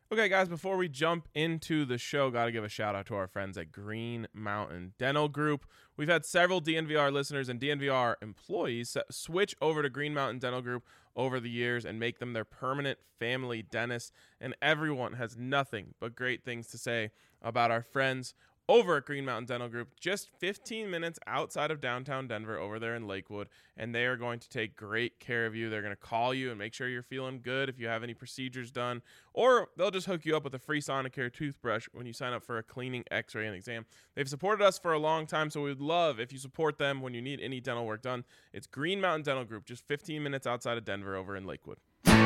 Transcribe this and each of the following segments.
Okay, guys, before we jump into the show, got to give a shout out to our friends at Green Mountain Dental Group. We've had several DNVR listeners and DNVR employees switch over to Green Mountain Dental Group over the years and make them their permanent family dentist. And everyone has nothing but great things to say about our friends over at Green Mountain Dental Group, just 15 minutes outside of downtown Denver over there in Lakewood, and they are going to take great care of you. They're going to call you and make sure you're feeling good if you have any procedures done, or they'll just hook you up with a free Sonicare toothbrush when you sign up for a cleaning, x-ray, and exam. They've supported us for a long time, so we would love if you support them when you need any dental work done. It's Green Mountain Dental Group, just 15 minutes outside of Denver over in Lakewood.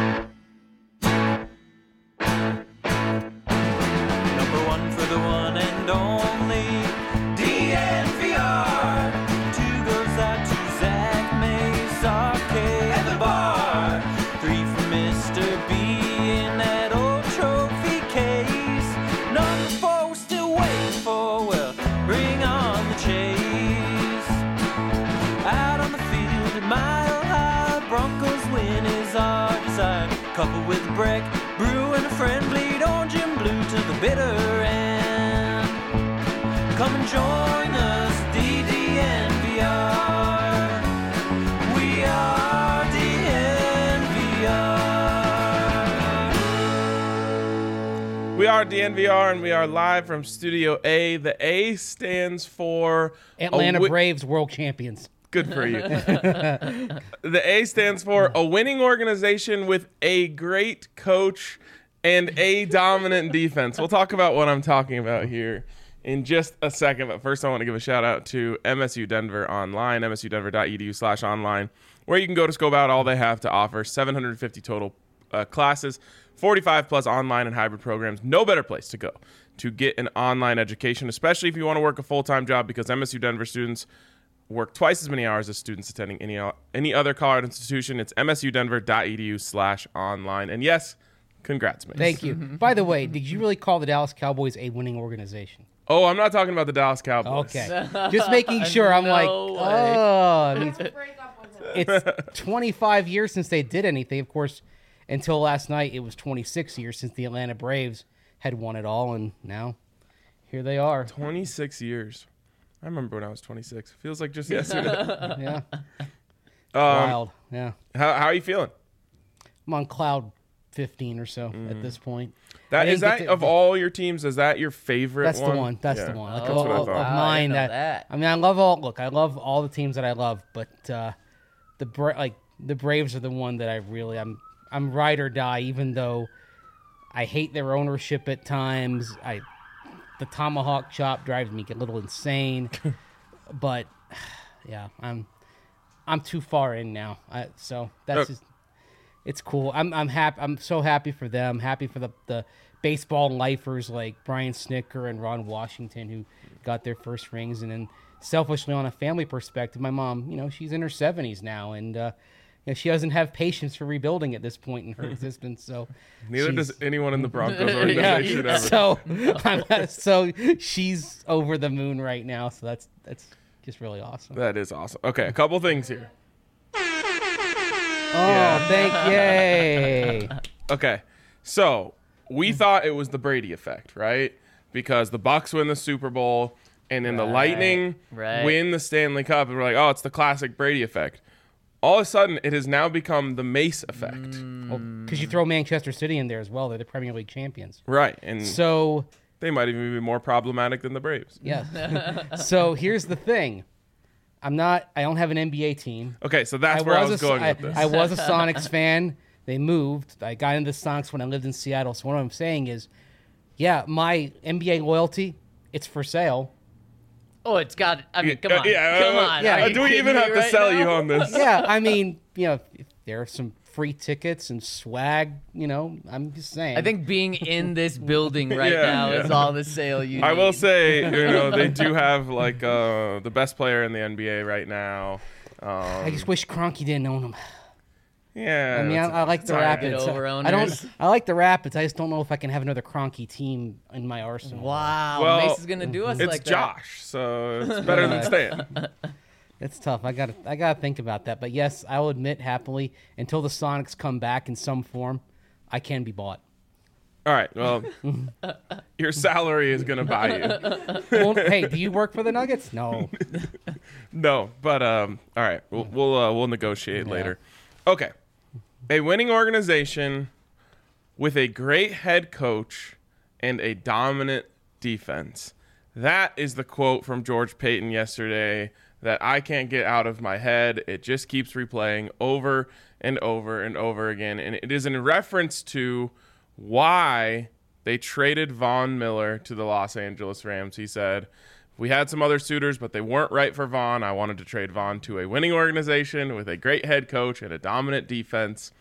Number one for the one and only DNVR. Two goes out to Zach Mays, Arcade, and the bar. Three for Mr. B in that old trophy case. Number four we're still waiting for, well, bring on the chase. Out on the field at Mile High, Broncos win is our desire. Couple with Breck, Brew and a friend, bleed orange and blue to the bitter end. Come and join us, DNVR. We are DNVR. We are DNVR, and we are live from Studio A. The A stands for Atlanta Braves World Champions. Good for you. The A stands for a winning organization with a great coach and a dominant defense. We'll talk about what I'm talking about here in just a second. But first, I want to give a shout out to MSU Denver Online, msudenver.edu/online, where you can go to scope out all they have to offer. 750 total classes, 45 plus online and hybrid programs. No better place to go to get an online education, especially if you want to work a full-time job, because MSU Denver students work twice as many hours as students attending any other college institution. It's msudenver.edu/online. And yes, congrats, man. Thank you. By the way, did you really call the Dallas Cowboys a winning organization? Oh, I'm not talking about the Dallas Cowboys. Okay. Just making sure. I'm I mean, it's 25 years since they did anything. Of course, until last night, it was 26 years since the Atlanta Braves had won it all, and now here they are. 26 years. I remember when I was 26. Feels like just yesterday. Yeah. Wild. Yeah. How are you feeling? I'm on cloud 15 or so at this point. Of all your teams, is that your favorite That's one? the one. That's the one. Like, that's what I thought. Of mine. I mean, I love all the teams that I love, but the Braves are the one that I'm ride or die, even though I hate their ownership at times. The tomahawk chop drives me a little insane, but yeah, I'm too far in now. So that's just, it's cool. I'm happy. I'm so happy for them. Happy for the baseball lifers like Brian Snicker and Ron Washington who got their first rings. And then selfishly, on a family perspective, my mom, she's in her 70s now, and she doesn't have patience for rebuilding at this point in her existence. So neither does anyone in the Broncos organization ever. So she's over the moon right now. So that's just really awesome. That is awesome. Okay, a couple things here. Yay. Okay, so we thought it was the Brady effect, right? Because the Bucs win the Super Bowl, and then the Lightning win the Stanley Cup, and we're like, oh, it's the classic Brady effect. All of a sudden, it has now become the Mace effect. Because you throw Manchester City in there as well. They're the Premier League champions. Right. And so they might even be more problematic than the Braves. Yeah. So here's the thing. I don't have an NBA team. Okay, so that's where I was going with this. I was a Sonics fan. They moved. I got into the Sonics when I lived in Seattle. So what I'm saying is, my NBA loyalty, it's for sale. Oh, it's got. I mean, come on. Do we even have to sell you on this? Yeah, I mean, if there are some free tickets and swag, I'm just saying. I think being in this building right now is all the sale you need. I will say, they do have the best player in the NBA right now. I just wish Kroenke didn't own him. Yeah, I mean, I like the Rapids. I like the Rapids. I just don't know if I can have another Kroenke team in my arsenal. Wow, well, Mace is gonna do us like that. It's Josh, so it's better than Stan. It's tough. I gotta think about that. But yes, I will admit happily, until the Sonics come back in some form, I can be bought. All right. Well, your salary is gonna buy you. Well, hey, do you work for the Nuggets? No. No, but all right. We'll negotiate later. Okay. A winning organization with a great head coach and a dominant defense. That is the quote from George Paton yesterday that I can't get out of my head. It just keeps replaying over and over and over again, and it is in reference to why they traded Von Miller to the Los Angeles Rams. He said, we had some other suitors, but they weren't right for Von. I wanted to trade Von to a winning organization with a great head coach and a dominant defense.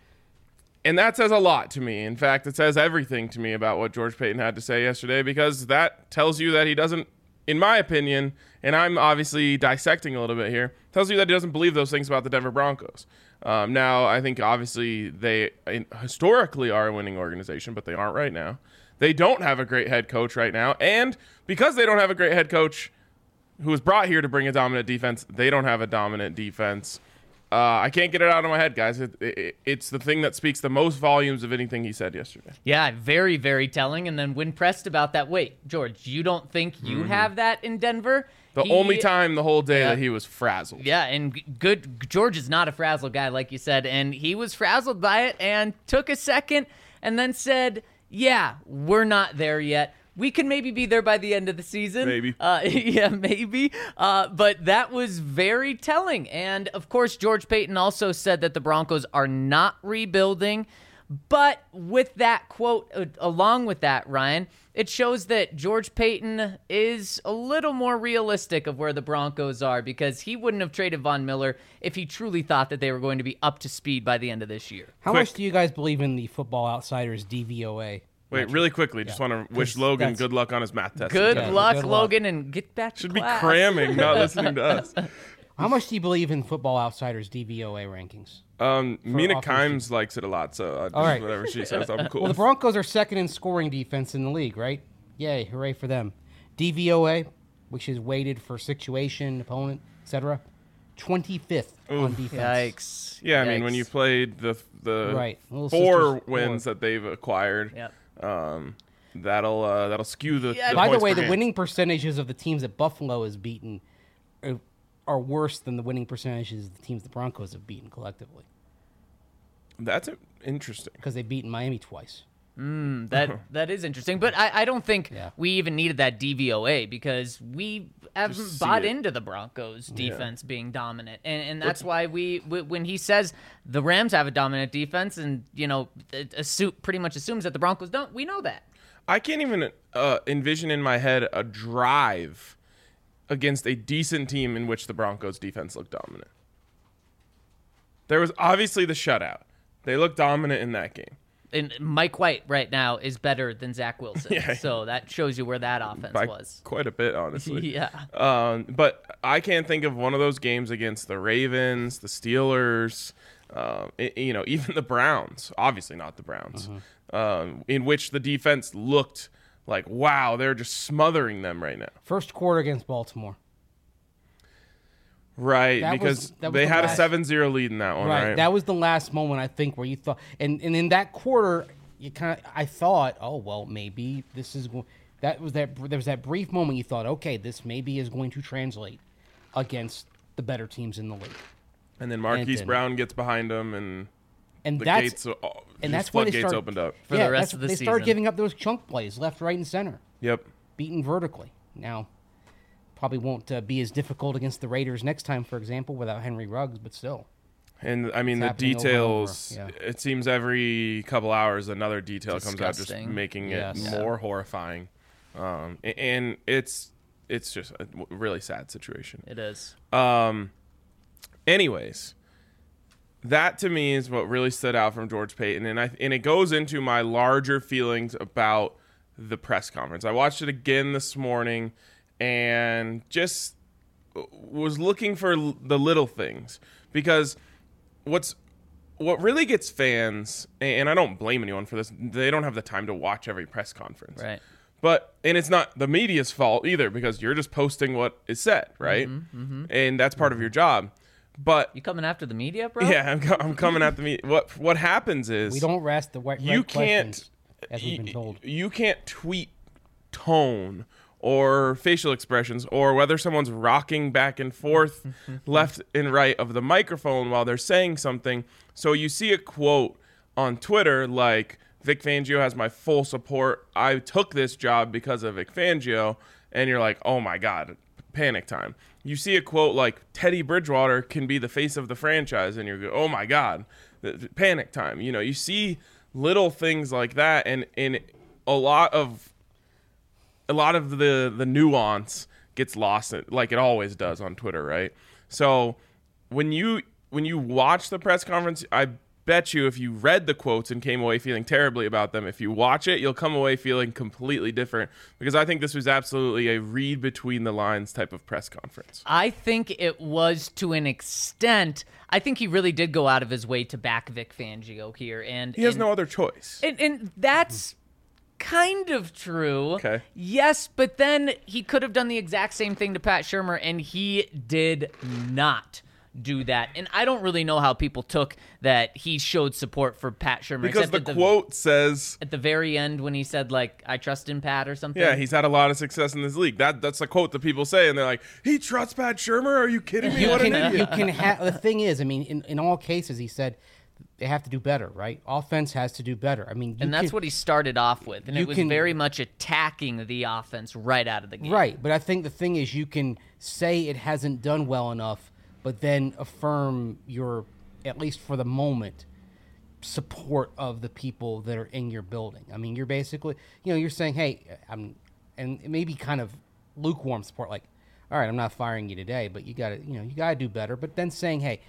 And that says a lot to me. In fact, it says everything to me about what George Paton had to say yesterday, because that tells you that he doesn't, in my opinion, and I'm obviously dissecting a little bit here, tells you that he doesn't believe those things about the Denver Broncos. Now, I think obviously they historically are a winning organization, but they aren't right now. They don't have a great head coach right now. And because they don't have a great head coach who was brought here to bring a dominant defense, they don't have a dominant defense. I can't get it out of my head, guys. It's the thing that speaks the most volumes of anything he said yesterday. Yeah, very, very telling. And then when pressed about that, wait, George, you don't think you have that in Denver? The only time the whole day that he was frazzled. Yeah, and George is not a frazzled guy, like you said, and he was frazzled by it and took a second and then said, yeah, we're not there yet. We can maybe be there by the end of the season. Maybe. Yeah, maybe. But that was very telling. And, of course, George Paton also said that the Broncos are not rebuilding. But with that quote, along with that, Ryan, it shows that George Paton is a little more realistic of where the Broncos are, because he wouldn't have traded Von Miller if he truly thought that they were going to be up to speed by the end of this year. How much do you guys believe in the Football Outsiders DVOA? Wait, really quickly, just want to wish Logan good luck on his math test. Good luck, Logan, and get back to class. Should be cramming, not listening to us. How much do you believe in Football Outsiders DVOA rankings? Mina Kimes likes it a lot, so all right. Whatever she says, I'm cool. Well, the Broncos are second in scoring defense in the league, right? Yay, hooray for them. DVOA, which is weighted for situation, opponent, etc., 25th on defense. Yikes. Yeah, I mean, when you played the four wins that they've acquired, that'll skew the By the points way, per the game. winning percentages of the teams that Buffalo has beaten are worse than the winning percentages of the teams the Broncos have beaten collectively. That's interesting. Because they've beaten Miami twice. That is interesting. But I don't think we even needed that DVOA, because we haven't bought into the Broncos defense being dominant. And that's why when he says the Rams have a dominant defense and, pretty much assumes that the Broncos don't, we know that. I can't even envision in my head a drive against a decent team in which the Broncos defense looked dominant. There was obviously the shutout. They looked dominant in that game. And Mike White right now is better than Zach Wilson. So that shows you where that offense was. Quite a bit, honestly. Yeah. But I can't think of one of those games against the Ravens, the Steelers, even the Browns. Obviously not the Browns. In which the defense looked like, wow, they're just smothering them right now. First quarter against Baltimore. Right, because they had a 7-0 lead in that one, right? That was the last moment, I think, where you thought, and in that quarter, I thought, oh well, maybe this is going. There was that brief moment you thought, okay, this maybe is going to translate against the better teams in the league. And then Marquise Brown gets behind them, and the that's when they gates opened up for the rest of the season. They started giving up those chunk plays left, right, and center. Yep, beaten vertically. Now, probably won't be as difficult against the Raiders next time, for example, without Henry Ruggs, but still. And, I mean, the details, it seems every couple hours another detail comes out, just making it more horrifying. And it's just a really sad situation. It is. Anyways, that to me is what really stood out from George Paton. And it goes into my larger feelings about the press conference. I watched it again this morning and just was looking for the little things, because what really gets fans, and I don't blame anyone for this, they don't have the time to watch every press conference. Right. And it's not the media's fault either, because you're just posting what is said, right? And that's part of your job. But you coming after the media, bro? Yeah, I'm coming at the media. What happens is we don't rest the you can't questions. as we've been told. You can't tweet tone or facial expressions or whether someone's rocking back and forth left and right of the microphone while they're saying something. So you see a quote on Twitter like, Vic Fangio has my full support. I took this job because of Vic Fangio. And you're like, oh my God, panic time. You see a quote like, Teddy Bridgewater can be the face of the franchise. And you're, oh my God, panic time. You know, you see little things like that. And a lot of the nuance gets lost, like it always does on Twitter, right? So when you watch the press conference, I bet you if you read the quotes and came away feeling terribly about them, if you watch it, you'll come away feeling completely different, because I think this was absolutely a read between the lines type of press conference. I think it was to an extent. I think he really did go out of his way to back Vic Fangio here. And he has no other choice. And that's kind of true. Okay. Yes, but then he could have done the exact same thing to Pat Shurmur, and he did not do that. And I don't really know how people took that he showed support for Pat Shurmur. Because the quote says at the very end when he said, like, I trust in Pat or something. Yeah, he's had a lot of success in this league. That's a quote that people say, and they're like, he trusts Pat Shurmur? Are you kidding me? What an idiot. The thing is, I mean, in all cases, he said they have to do better, right? Offense has to do better. I mean, that's what he started off with, and it was very much attacking the offense right out of the game. Right, but I think the thing is, you can say it hasn't done well enough, but then affirm your, at least for the moment, support of the people that are in your building. I mean, you're basically, you're saying, hey, and maybe kind of lukewarm support, like, all right, I'm not firing you today, but you got to do better. But then saying, hey,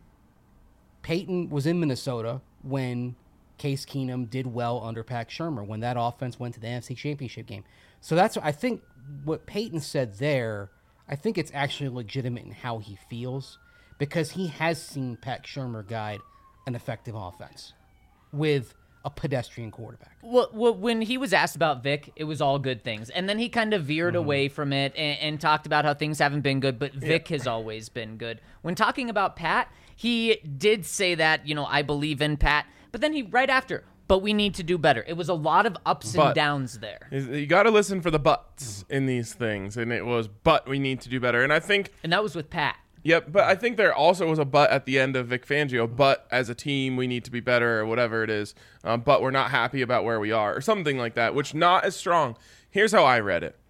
Peyton was in Minnesota when Case Keenum did well under Pat Shurmur, when that offense went to the NFC Championship game. So that's, I think, what Peyton said there, I think it's actually legitimate in how he feels, because he has seen Pat Shurmur guide an effective offense with a pedestrian quarterback. Well, when he was asked about Vic, it was all good things. And then he kind of veered away from it and talked about how things haven't been good, but Vic has always been good. When talking about Pat, he did say that, I believe in Pat, but then he, right after, but we need to do better. It was a lot of ups and downs there. You got to listen for the buts in these things, and it was, but we need to do better. And I think... And that was with Pat. Yep, but I think there also was a but at the end of Vic Fangio, but as a team, we need to be better, or whatever it is, but we're not happy about where we are, or something like that, which not as strong. Here's how I read it.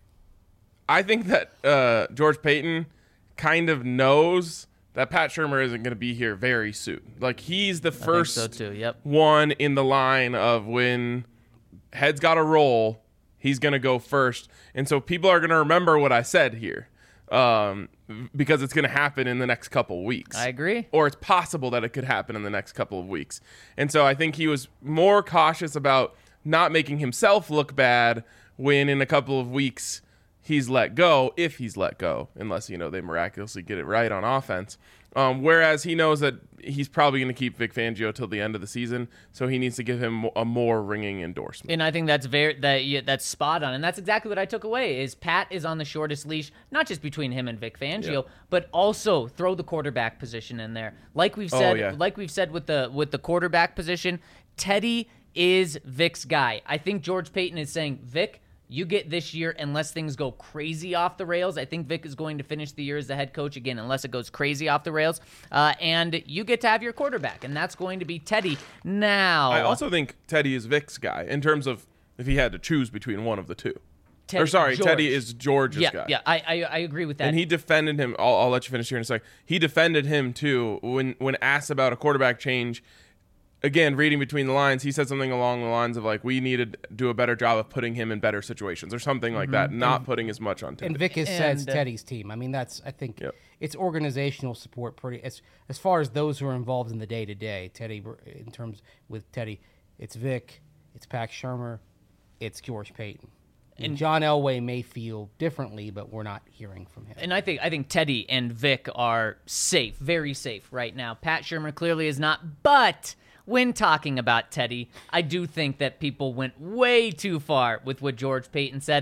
I think that George Payton kind of knows that Pat Shurmur isn't going to be here very soon. Like, he's the first one in the line of when heads got to roll, he's going to go first. And so people are going to remember what I said here. Because it's going to happen in the next couple of weeks. I agree. Or it's possible that it could happen in the next couple of weeks. And so I think he was more cautious about not making himself look bad when in a couple of weeks he's let go, if he's let go, unless, they miraculously get it right on offense. Whereas he knows that he's probably going to keep Vic Fangio till the end of the season, so he needs to give him a more ringing endorsement. And I think that's that's spot on, and that's exactly what I took away. Is Pat is on the shortest leash, not just between him and Vic Fangio, but also throw the quarterback position in there. Like we've said, with the quarterback position, Teddy is Vic's guy. I think George Payton is saying, Vic, you get this year unless things go crazy off the rails. I think Vic is going to finish the year as the head coach again unless it goes crazy off the rails. And you get to have your quarterback, and that's going to be Teddy. Now, I also think Teddy is Vic's guy in terms of if he had to choose between one of the two. Teddy is George's guy. Yeah, I agree with that. And he defended him. I'll let you finish here in a second. He defended him, too, when asked about a quarterback change. Again, reading between the lines, he said something along the lines of, like, we need to do a better job of putting him in better situations or something like that, not putting as much on Teddy. And Vic has said Teddy's team. I mean, I think it's organizational support pretty as far as those who are involved in the day-to-day. Teddy, in terms with Teddy, it's Vic, it's Pat Shurmur, it's George Payton. And John Elway may feel differently, but we're not hearing from him. And I think Teddy and Vic are safe, very safe right now. Pat Shurmur clearly is not, but when talking about Teddy, I do think that people went way too far with what George Payton said.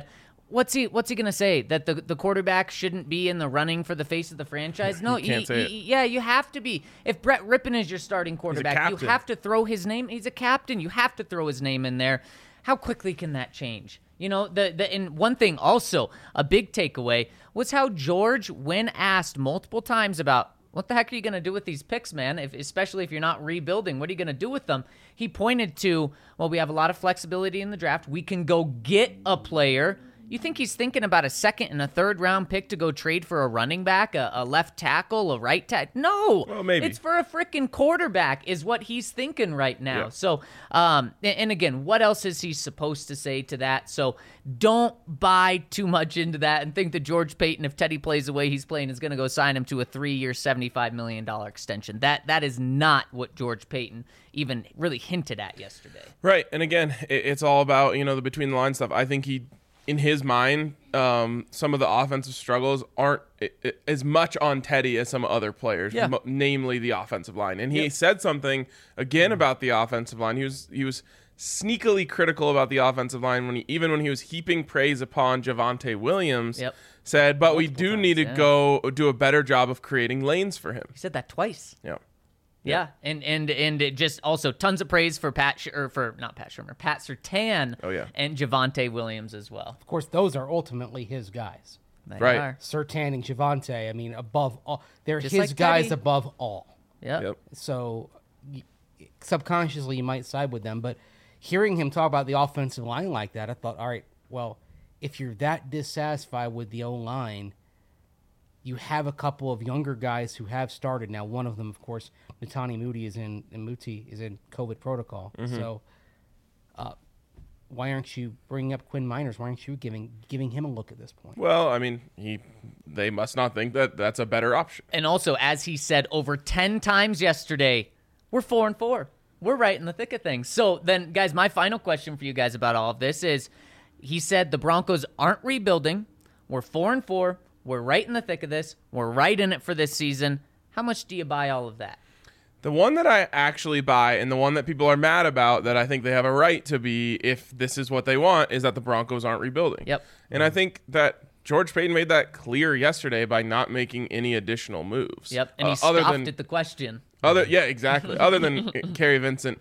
what's he going to say? That the quarterback shouldn't be in the running for the face of the franchise? No, you can't say it. Yeah, you have to be. If Brett Rippon is your starting quarterback, you have to throw his name. He's a captain. You have to throw his name in there. How quickly can that change? You know, and one thing also, a big takeaway was how George, when asked multiple times about what the heck are you going to do with these picks, man, especially if you're not rebuilding, what are you going to do with them? He pointed to, well, we have a lot of flexibility in the draft. We can go get a player. You think he's thinking about a second and a third round pick to go trade for a running back, a left tackle, a right tackle? No. Well, maybe. It's for a freaking quarterback is what he's thinking right now. Yeah. So, and again, what else is he supposed to say to that? So don't buy too much into that and think that George Paton, if Teddy plays the way he's playing, is going to go sign him to a 3-year, $75 million extension. That is not what George Paton even really hinted at yesterday. Right. And again, it's all about, the between the line stuff. I think in his mind, some of the offensive struggles aren't as much on Teddy as some other players, namely the offensive line. And he said something again about the offensive line. He was sneakily critical about the offensive line when he was heaping praise upon Javonte Williams. Said, but we do need to go do a better job of creating lanes for him. He said that twice. Yeah. Yeah, and it just also tons of praise for Pat Surtain. Oh yeah, and Javonte Williams as well. Of course, those are ultimately his guys. They right, are. Surtain and Javonte. I mean, above all, they're Just his like guys Teddy. above all. Yep. So subconsciously, you might side with them. But hearing him talk about the offensive line like that, I thought, all right, well, if you're that dissatisfied with the O-line, you have a couple of younger guys who have started. Now, one of them, of course, Netani Muti is in COVID protocol. Mm-hmm. So why aren't you bringing up Quinn Miners? Why aren't you giving him a look at this point? Well, I mean, they must not think that that's a better option. And also, as he said over 10 times yesterday, we're 4-4. We're right in the thick of things. So then, guys, my final question for you guys about all of this is, he said the Broncos aren't rebuilding. We're 4-4. We're right in the thick of this. We're right in it for this season. How much do you buy all of that? The one that I actually buy, and the one that people are mad about, that I think they have a right to be if this is what they want, is that the Broncos aren't rebuilding. Yep. And I think that George Paton made that clear yesterday by not making any additional moves. Yep, and he scoffed at the question. Yeah, exactly. Other than Kerry Vincent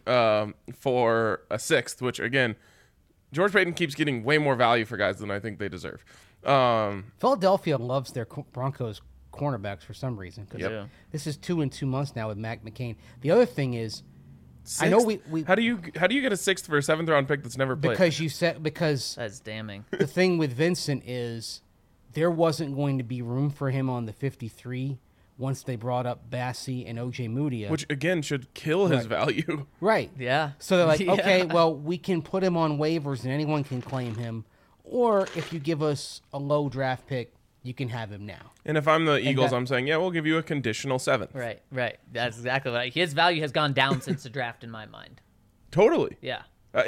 for a sixth, which, again, George Paton keeps getting way more value for guys than I think they deserve. Philadelphia loves their Broncos cornerbacks for some reason. Yep. This is 2 in 2 months now with Mac McCain. The other thing is, Sixth? I know we how do you get a sixth for a 7th round pick that's never played? Because That's damning. the thing with Vincent is there wasn't going to be room for him on the 53 once they brought up Bassie and OJ Mudia. Which, again, should kill his value. Right. Yeah. So they're like, Yeah. okay, well, we can put him on waivers and anyone can claim him. Or if you give us a low draft pick, you can have him now. And if I'm the Eagles, that- I'm saying, yeah, we'll give you a conditional 7th. Right. That's exactly right. His value has gone down since the draft in my mind. Totally. Yeah.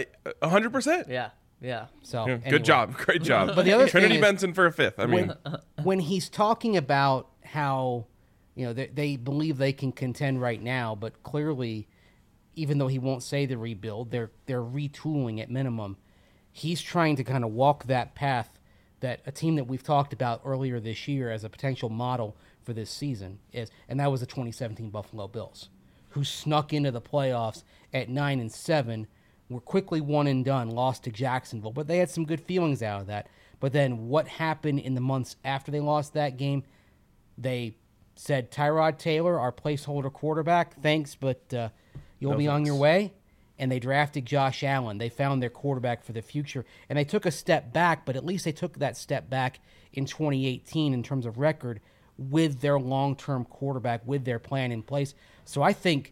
100%. Yeah. So Yeah, anyway. Good job. Great job. But the other Trinity thing is- Benson for a 5th. I mean, when he's talking about how they believe they can contend right now, but clearly, even though he won't say the rebuild, they're retooling at minimum. He's trying to kind of walk that path that a team that we've talked about earlier this year as a potential model for this season is, and that was the 2017 Buffalo Bills, who snuck into the playoffs at 9-7, were quickly one and done, lost to Jacksonville, but they had some good feelings out of that. But then what happened in the months after they lost that game? They said, Tyrod Taylor, our placeholder quarterback, thanks, but you'll be on your way. And they drafted Josh Allen. They found their quarterback for the future. And they took a step back, but at least they took that step back in 2018 in terms of record with their long-term quarterback, with their plan in place. So I think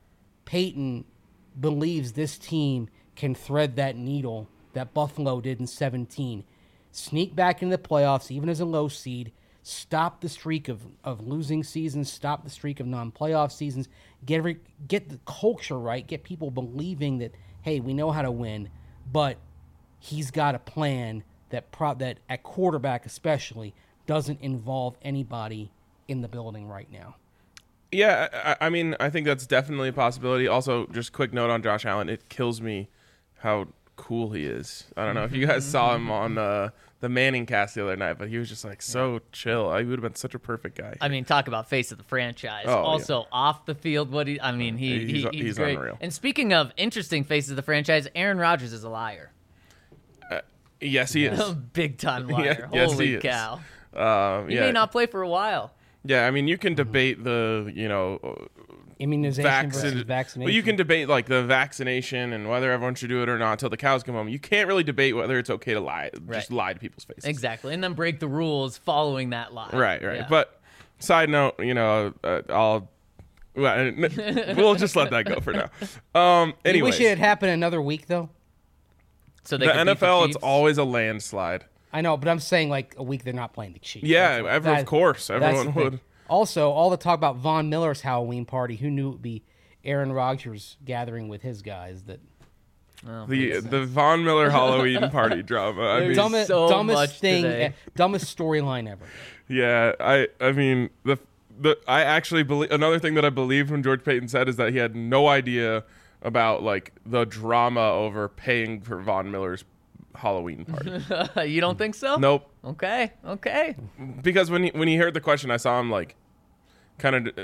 Peyton believes this team can thread that needle that Buffalo did in 2017. Sneak back into the playoffs, even as a low seed, stop the streak of losing seasons, stop the streak of non-playoff seasons, get the culture right, get people believing that, hey, we know how to win, but he's got a plan that at quarterback especially doesn't involve anybody in the building right now. yeah, I mean, I think that's definitely a possibility. Also, just quick note on Josh Allen. It kills me how cool he is. I don't know if you guys saw him on the Manning cast the other night, but he was just like so chill. He would have been such a perfect guy. I mean, talk about face of the franchise. Oh, also off the field, he's great. unreal. And speaking of interesting faces of the franchise, Aaron Rodgers is a liar. Yes, he is. Big time liar. Yes, Holy he is. cow. He Yeah. may not play for a while. Yeah, I mean, you can debate the, Immunization versus vaccination. But you can debate like the vaccination and whether everyone should do it or not until the cows come home. You can't really debate whether it's okay to lie, just lie to people's faces. Exactly. And then break the rules following that lie. Right. Yeah. But side note, we'll just let that go for now. You Anyways, wish it had happened another week though. So the they could beat the NFL, it's Chiefs? always a landslide. I know, but I'm saying like a week they're not playing the Chiefs. Yeah, That's of course, that's everyone the thing. would. Also, all the talk about Von Miller's Halloween party. Who knew it would be Aaron Rodgers gathering with his guys? That The Von Miller Halloween party drama. I mean, There's so dumbest much thing, today. dumbest storyline ever. yeah, I mean I actually believe another thing that I believe when George Payton said is that he had no idea about like the drama over paying for Von Miller's Halloween party. You don't think so? Nope. Okay. Because when he heard the question, I saw him like kind of.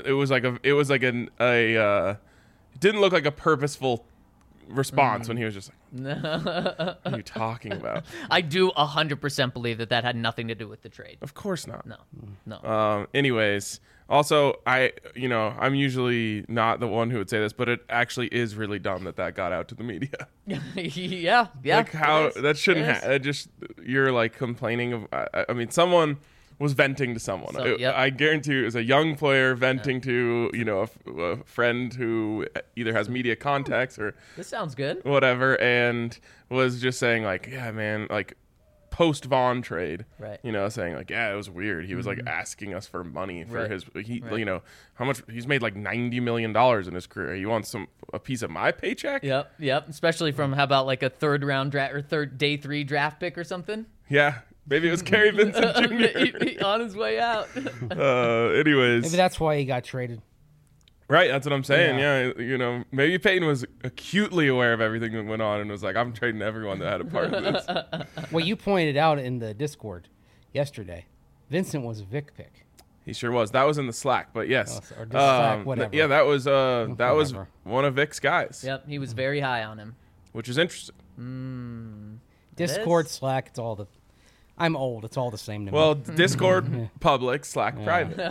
It didn't look like a purposeful response when he was just like, "What are you talking about?" I do 100% believe that had nothing to do with the trade. Of course not. No. Anyways, also I'm usually not the one who would say this, but it actually is really dumb that got out to the media. yeah. Like how it is. that shouldn't It is. have. Just you're like complaining of. I mean, someone was venting to someone. So, yep. I guarantee you, it was a young player venting to a friend who either has media contacts or This sounds good. whatever, and was just saying like, yeah, man, like post Vaughn trade, Right. saying like, yeah, it was weird. He was like asking us for money for Right. his, Right. how much he's made like $90 million in his career. He wants a piece of my paycheck. Yep. Especially from how about like a third round draft or day 3 draft pick or something? Yeah. Maybe it was Kerry Vincent Jr. He on his way out. Anyways, Maybe that's why he got traded. right? That's what I'm saying. Yeah, maybe Peyton was acutely aware of everything that went on and was like, "I'm trading everyone that had a part in this." Well, you pointed out in the Discord yesterday, Vincent was a Vic pick. He sure was. That was in the Slack, but yes, Or just Slack, whatever. yeah, that was Whatever. one of Vic's guys, Yep, he was very high on him. which is interesting. Discord, is? Slack, it's all the. I'm old. It's all the same to me. Well, Discord public, Slack private.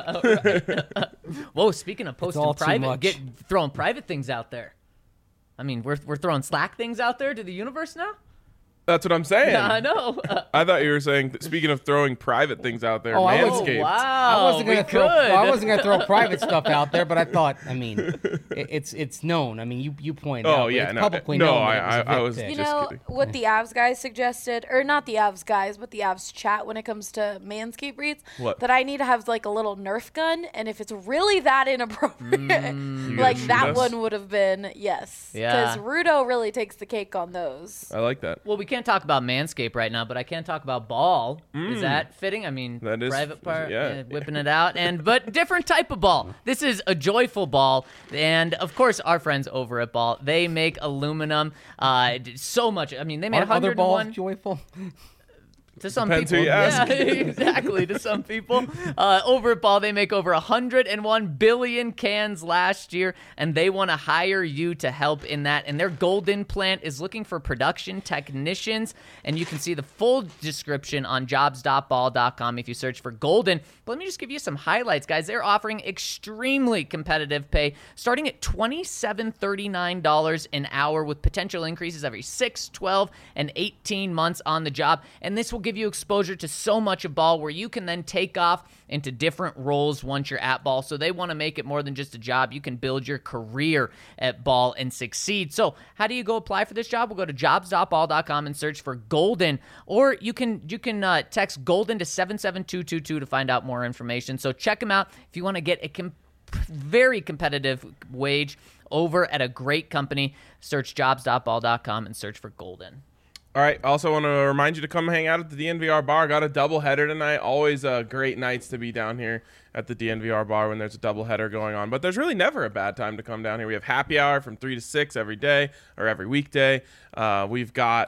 Whoa, speaking of posting all too private, much. throwing private things out there. I mean, we're throwing Slack things out there to the universe now? That's what I'm saying. Yeah, I know. I thought you were saying, speaking of throwing private things out there, Oh, I was- Manscaped. wow. I wasn't gonna we throw. could. I wasn't gonna throw private stuff out there, but I thought. I mean, it's known. I mean, you pointed out. Oh but yeah, it's no, publicly no, known. that it I a Vic was pick. You just know kidding. what the Avs guys suggested, or not the Avs guys, but the Avs chat when it comes to Manscaped breeds? What? That I need to have like a little Nerf gun, and if it's really that inappropriate, You like gotta that shoot us? one would have been yes. Yeah. Because Rudo really takes the cake on those. I like that. Well, we can't talk about Manscaped right now, but I can talk about Ball. Is that fitting? I mean, That is- private part, yeah. whipping it out, but different type of ball. This is a joyful ball, and of course, our friends over at Ball, they make aluminum. So much. I mean, they made Aren't other 101 balls joyful? to some Depends who people. you ask. Yeah, exactly. To some people, over at Ball, they make over 101 billion cans last year, and they want to hire you to help in that. And their Golden plant is looking for production technicians, and you can see the full description on jobs.ball.com if you search for Golden. But let me just give you some highlights, guys. They're offering extremely competitive pay, starting at $27.39 an hour, with potential increases every 6, 12, and 18 months on the job. And this will give you exposure to so much of Ball where you can then take off into different roles once you're at Ball. So they want to make it more than just a job. You can build your career at Ball and succeed. So how do you go apply for this job? We'll go to jobs.ball.com and search for Golden, or you can text Golden to 77222 to find out more information. So check them out if you want to get a very competitive wage over at a great company. Search jobs.ball.com and search for Golden. All right. Also want to remind you to come hang out at the DNVR bar. Got a doubleheader tonight. Always great nights to be down here at the DNVR bar when there's a doubleheader going on. But there's really never a bad time to come down here. We have happy hour from 3 to 6 every day or every weekday. We've got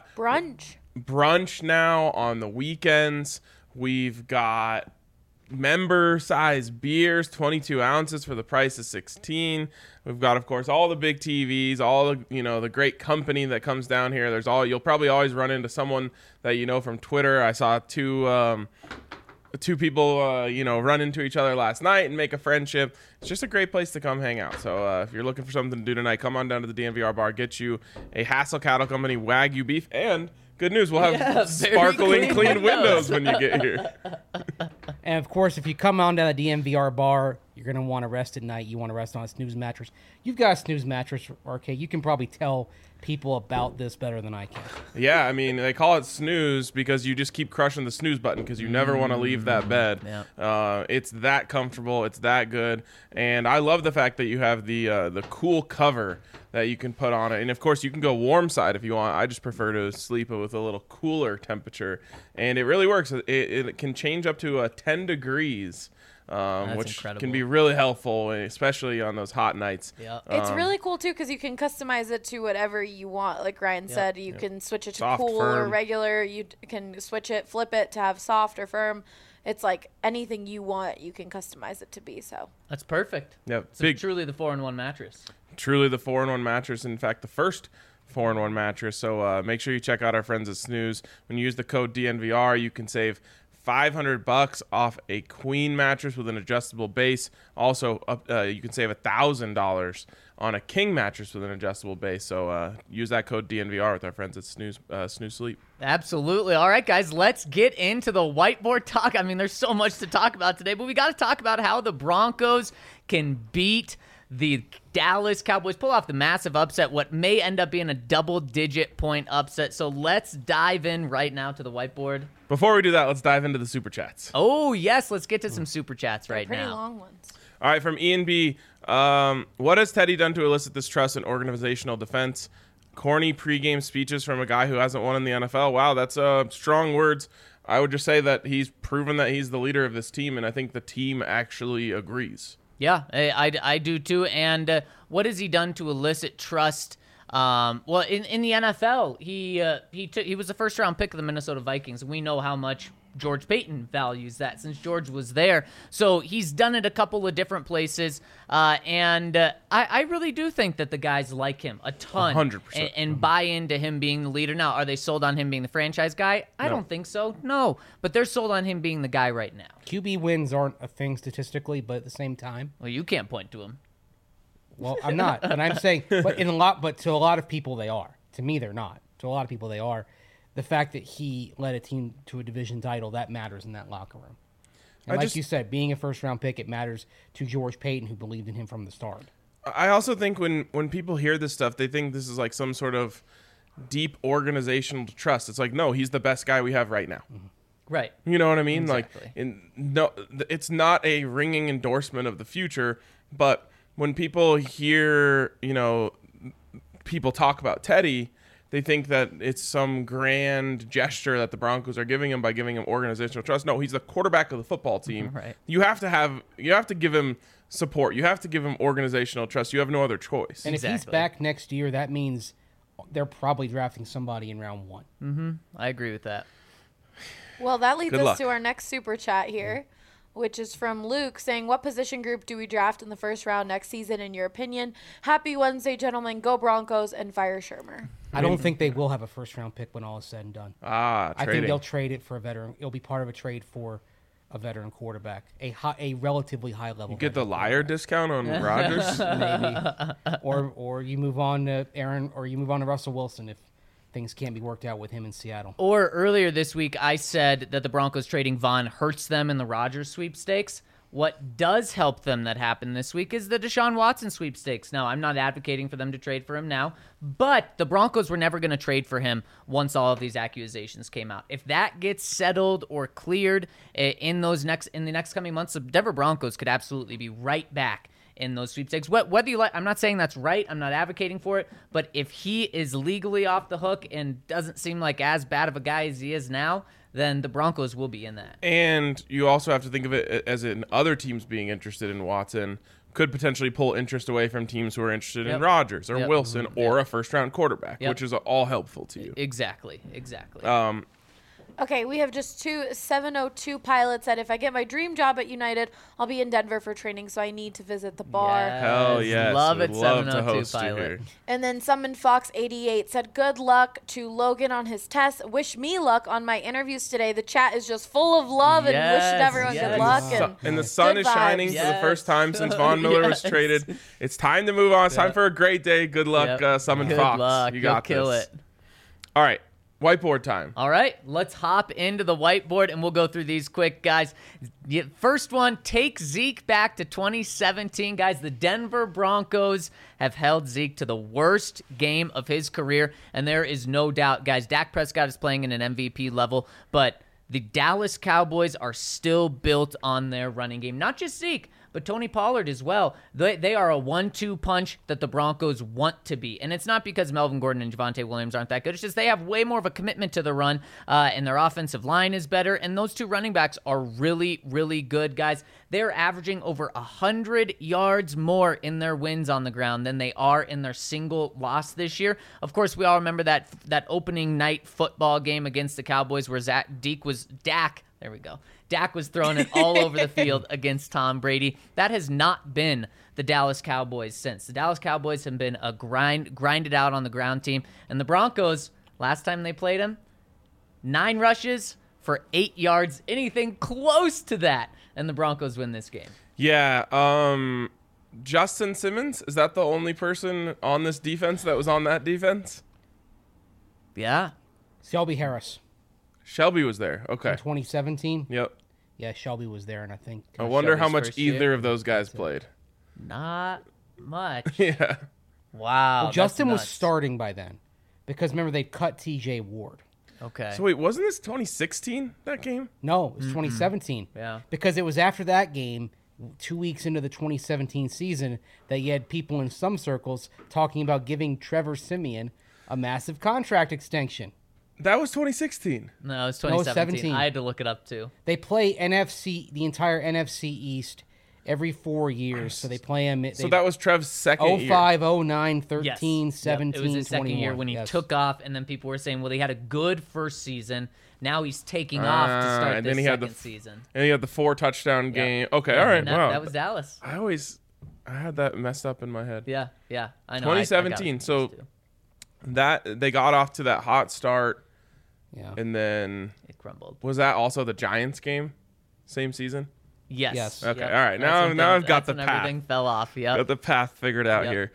brunch now on the weekends. We've got member size beers, 22 ounces for the price of 16. We've got, of course, all the big TVs, all the, the great company that comes down here. You'll probably always run into someone that you know from Twitter. I saw two people, run into each other last night and make a friendship. It's just a great place to come hang out. So if you're looking for something to do tonight, come on down to the DNVR bar, get you a Hassel Cattle Company Wagyu beef, and good news, we'll have sparkling clean windows when you get here. And, of course, if you come on down the DNVR bar, you're going to want to rest at night. You want to rest on a snooze mattress. You've got a snooze mattress, RK. You can probably tell people about this better than I can. Yeah, I mean, they call it snooze because you just keep crushing the snooze button because you never want to leave that bed. Yeah. It's that comfortable. It's that good. And I love the fact that you have the cool cover that you can put on it. And, of course, you can go warm side if you want. I just prefer to sleep with a little cooler temperature. And it really works. It can change up to 10 degrees. Which incredible. Can be really helpful, especially on those hot nights. Yeah. It's really cool, too, because you can customize it to whatever you want. Like Ryan said, you can switch it to Soft, cool firm. or regular. You can switch it, flip it to have soft or firm. It's like anything you want, you can customize it to be. So That's perfect. Yeah, So truly the 4-in-1 mattress. Truly the 4-in-1 mattress. In fact, the first 4-in-1 mattress. So make sure you check out our friends at Snooze. When you use the code DNVR, you can save $500 off a queen mattress with an adjustable base. Also, you can save $1,000 on a king mattress with an adjustable base. So use that code DNVR with our friends at Snooze Sleep. Absolutely. All right, guys, let's get into the whiteboard talk. I mean, there's so much to talk about today, but we got to talk about how the Broncos can beat the Dallas Cowboys, pull off the massive upset, what may end up being a double-digit point upset. So let's dive in right now to the whiteboard. Before we do that, let's dive into the Super Chats. Oh, yes, let's get to some Super Chats right pretty now. long ones. All right, from Ian B. What has Teddy done to elicit this trust and organizational defense? Corny pregame speeches from a guy who hasn't won in the NFL. Wow, that's strong words. I would just say that he's proven that he's the leader of this team, and I think the team actually agrees. Yeah, I do too. And what has he done to elicit trust? Well, in the NFL, he was the first round pick of the Minnesota Vikings. We know how much George Payton values that since George was there. So he's done it a couple of different places. And I really do think that the guys like him a ton 100%. and buy into him being the leader. Now, are they sold on him being the franchise guy? I don't think so. No, but they're sold on him being the guy right now. QB wins aren't a thing statistically, but at the same time, Well, you can't point to him. well, I'm not, and I'm saying, but to a lot of people they are. To me, they're not. To a lot of people, they are. The fact that he led a team to a division title, that matters in that locker room. And you said, being a first-round pick, it matters to George Payton, who believed in him from the start. I also think when people hear this stuff, they think this is like some sort of deep organizational trust. It's like, no, he's the best guy we have right now. Mm-hmm. Right. You know what I mean? Exactly. No, it's not a ringing endorsement of the future, but when people hear, people talk about Teddy, they think that it's some grand gesture that the Broncos are giving him by giving him organizational trust. No, he's the quarterback of the football team. Right. You have to give him support. You have to give him organizational trust. You have no other choice. And if he's back next year, that means they're probably drafting somebody in round 1. I agree with that. Well, that leads Good us luck. to our next super chat here, which is from Luke saying, what position group do we draft in the first round next season, in your opinion? Happy Wednesday, gentlemen. Go Broncos and fire Shermer. I don't think they will have a first-round pick when all is said and done. I think Trading. they'll trade it for a veteran. It'll be part of a trade for a veteran quarterback, a relatively high level. You get the liar discount on Rodgers. maybe, or you move on to Aaron, or you move on to Russell Wilson if things can't be worked out with him in Seattle. Or earlier this week, I said that the Broncos trading Vaughn hurts them in the Rodgers sweepstakes. What does help them that happened this week is the Deshaun Watson sweepstakes. Now, I'm not advocating for them to trade for him now, but the Broncos were never going to trade for him once all of these accusations came out. If that gets settled or cleared in the next coming months, the Denver Broncos could absolutely be right back in those sweepstakes. Whether you like, I'm not saying that's right. I'm not advocating for it. But if he is legally off the hook and doesn't seem like as bad of a guy as he is now, then the Broncos will be in that. And you also have to think of it as in other teams being interested in Watson could potentially pull interest away from teams who are interested in Rodgers or Wilson or a first-round quarterback, which is all helpful to you. Exactly. Okay, we have just two 702 pilots that if I get my dream job at United, I'll be in Denver for training, so I need to visit the bar. Yes. Hell yes. Love it, We'd love to 702 host you pilot. here. And then Summon Fox 88 said, good luck to Logan on his test. Wish me luck on my interviews today. The chat is just full of love and wishing everyone good luck. And the sun is shining for the first time since Von Miller was traded. It's time to move on. It's time for a great day. Good luck, Summon Good Fox. luck. You got You'll kill this. it. All right. Whiteboard time. All right, let's hop into the whiteboard, and we'll go through these quick, guys. First one, take Zeke back to 2017. Guys, the Denver Broncos have held Zeke to the worst game of his career, and there is no doubt, guys, Dak Prescott is playing in an MVP level, but the Dallas Cowboys are still built on their running game. Not just Zeke, but Tony Pollard as well. They are a 1-2 punch that the Broncos want to be. And it's not because Melvin Gordon and Javonte Williams aren't that good. It's just they have way more of a commitment to the run, and their offensive line is better. And those two running backs are really, really good, guys. They're averaging over 100 yards more in their wins on the ground than they are in their single loss this year. Of course, we all remember that opening night football game against the Cowboys where Dak was throwing it all over the field against Tom Brady. That has not been the Dallas Cowboys since. The Dallas Cowboys have been a grinded out on the ground team. And the Broncos, last time they played them, 9 rushes for 8 yards, anything close to that. And the Broncos win this game. Yeah. Justin Simmons, is that the only person on this defense that was on that defense? Yeah. Shelby Harris. Shelby was there. Okay. In 2017? Yep. Yeah, Shelby was there, and I think... I wonder Shelby's how much first year. either of those guys played. Not much. Yeah. Wow. Well, Justin was nuts. starting by then. Because remember, they cut TJ Ward. Okay. So wait, wasn't this 2016, that game? No, it was 2017. Yeah. Because it was after that game, 2 weeks into the 2017 season, that you had people in some circles talking about giving Trevor Siemian a massive contract extension. That was 2016. No, it was No, it was 2017. 17. I had to look it up, too. They play the entire NFC East every 4 years. So they play them. So that was Trev's second year. 05, 09, 13, Yes. 17, Yep. It was his second 21. year when he Yes. took off, and then people were saying, well, he had a good first season. Now he's taking off to start and this then he had second the season. And he had the 4 touchdown game. Okay, all right. Wow. That was Dallas. I had that messed up in my head. Yeah. I know. 2017. I got it So too. that they got off to that hot start, Yeah. and then It crumbled. was that also the Giants game, same season? Yes. Yes. Okay, Yep. all right. That's Now when I've got that's the when path. everything fell off. Yep. Got the path figured out Yep. here.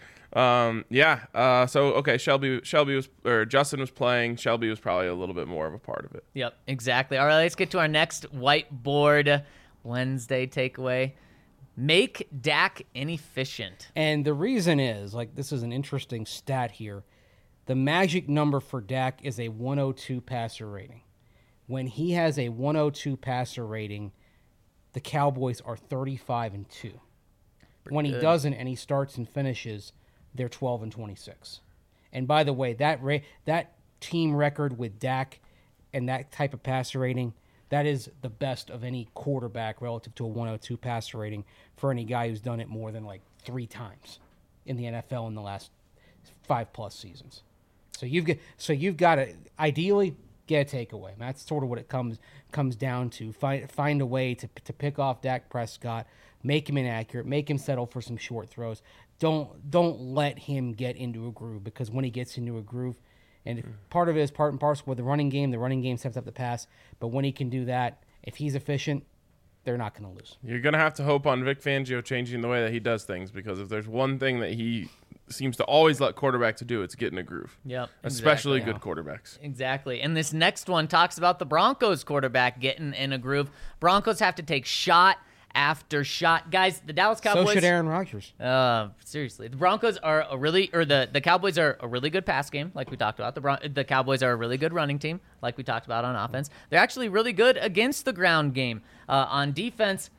Shelby was, or Justin was playing. Shelby was probably a little bit more of a part of it. Yep, exactly. All right, let's get to our next whiteboard Wednesday takeaway. Make Dak inefficient. And the reason is, this is an interesting stat here. The magic number for Dak is a 102 passer rating. When he has a 102 passer rating, the Cowboys are 35-2. When he doesn't and he starts and finishes, they're 12-26. And by the way, that team record with Dak and that type of passer rating, that is the best of any quarterback relative to a 102 passer rating for any guy who's done it more than 3 times in the NFL in the last 5+ seasons. So you've got to ideally get a takeaway. That's sort of what it comes down to. Find a way to pick off Dak Prescott, make him inaccurate, make him settle for some short throws. Don't let him get into a groove, because when he gets into a groove, and part of it is part and parcel with the running game sets up the pass, but when he can do that, if he's efficient, they're not going to lose. You're going to have to hope on Vic Fangio changing the way that he does things, because if there's one thing that he seems to always let quarterbacks do, it's get in a groove. Yep, Especially exactly. good quarterbacks. Exactly. And this next one talks about the Broncos quarterback getting in a groove. Broncos have to take shot after shot. Guys, the Dallas Cowboys... So should Aaron Rodgers. Seriously. The Broncos are the Cowboys are a really good pass game, like we talked about. The Cowboys are a really good running team, like we talked about on offense. They're actually really good against the ground game. On defense,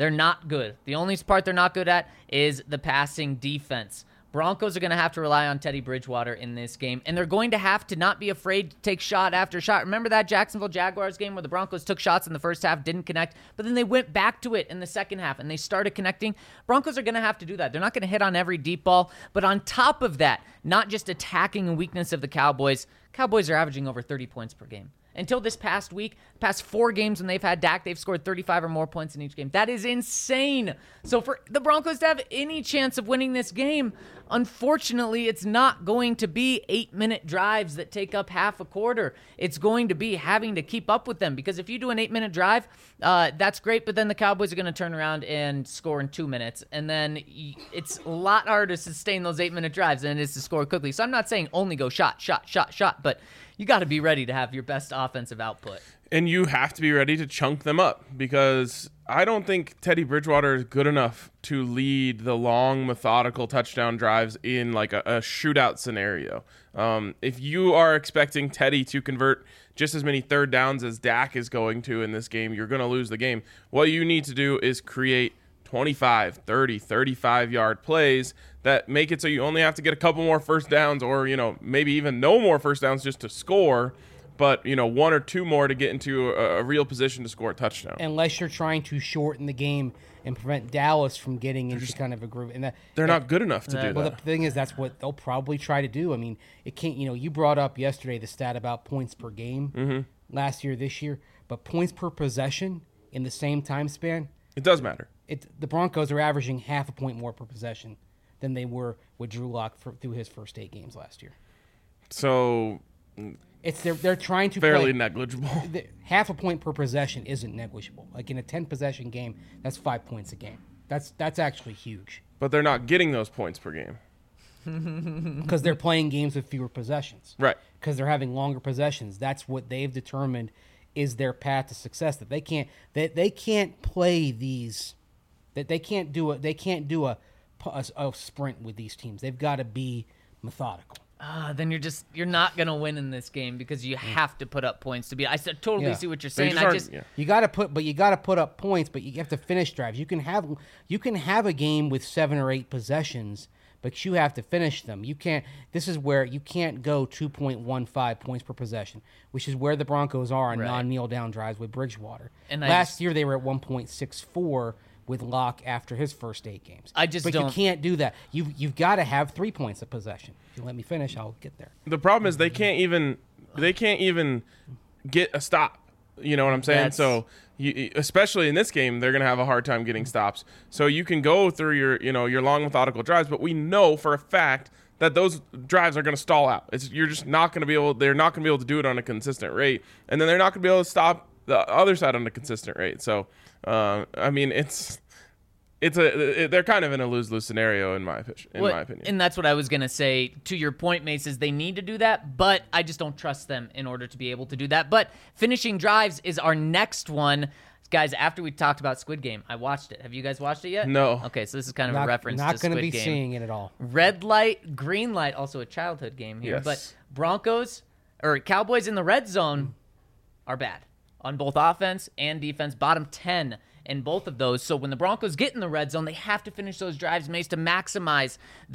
They're not good. The only part they're not good at is the passing defense. Broncos are going to have to rely on Teddy Bridgewater in this game, and they're going to have to not be afraid to take shot after shot. Remember that Jacksonville Jaguars game where the Broncos took shots in the first half, didn't connect, but then they went back to it in the second half, and they started connecting? Broncos are going to have to do that. They're not going to hit on every deep ball, but on top of that, not just attacking a weakness of the Cowboys are averaging over 30 points per game. Until this past week, past 4 games when they've had Dak, they've scored 35 or more points in each game. That is insane. So for the Broncos to have any chance of winning this game, unfortunately, it's not going to be 8-minute drives that take up half a quarter. It's going to be having to keep up with them, because if you do an 8-minute drive, that's great, but then the Cowboys are going to turn around and score in 2 minutes, and then it's a lot harder to sustain those 8-minute drives than it is to score quickly. So I'm not saying only go shot, but you got to be ready to have your best offensive output. And you have to be ready to chunk them up, because I don't think Teddy Bridgewater is good enough to lead the long, methodical touchdown drives in like a shootout scenario. If you are expecting Teddy to convert just as many third downs as Dak is going to in this game, you're going to lose the game. What you need to do is create 25, 30, 35-yard plays that make it so you only have to get a couple more first downs, or, maybe even no more first downs just to score, but, 1 or 2 more to get into a real position to score a touchdown. Unless you're trying to shorten the game and prevent Dallas from getting into kind of a groove. And they're not good enough to do that. Well, the thing is, that's what they'll probably try to do. I mean, it can't, you brought up yesterday the stat about points per game last year, this year, but points per possession in the same time span. It does matter. The Broncos are averaging half a point more per possession than they were with Drew Lock through his first 8 games last year. So they're trying to fairly negligible. Half a point per possession isn't negligible. Like in a 10-possession game, that's 5 points a game. That's actually huge. But they're not getting those points per game. Because they're playing games with fewer possessions. Right. Because they're having longer possessions. That's what they've determined is their path to success. That they can't play these. That they can't do a sprint with these teams. They've got to be methodical. Then you're not gonna win in this game, because you have to put up points to beat. I totally see what you're saying. You got to put up points, but you have to finish drives. You can have a game with 7 or 8 possessions, but you have to finish them. You can't. This is where you can't go 2.15 points per possession, which is where the Broncos are on non-kneel down drives with Bridgewater. And last year they were at 1.64. With Locke after his first 8 games. You can't do that. You've got to have 3 points of possession. If you let me finish, I'll get there. The problem is they can't even get a stop. You know what I'm saying? So especially in this game, they're going to have a hard time getting stops. So you can go through your long methodical drives, but we know for a fact that those drives are going to stall out. You're just not going to be able. They're not going to be able to do it on a consistent rate, and then they're not going to be able to stop the other side on a consistent rate. So, I mean, they're kind of in a lose-lose scenario in my opinion. And that's what I was going to say. To your point, Mace, is they need to do that, but I just don't trust them in order to be able to do that. But finishing drives is our next one. Guys, after we talked about Squid Game, I watched it. Have you guys watched it yet? No. Okay, so this is kind of a reference to Squid Game. Not going to be seeing it at all. Red light, green light, also a childhood game here. Yes. But Cowboys in the red zone are bad on both offense and defense, bottom 10 in both of those. So when the Broncos get in the red zone, they have to finish those drives, Mace, to maximize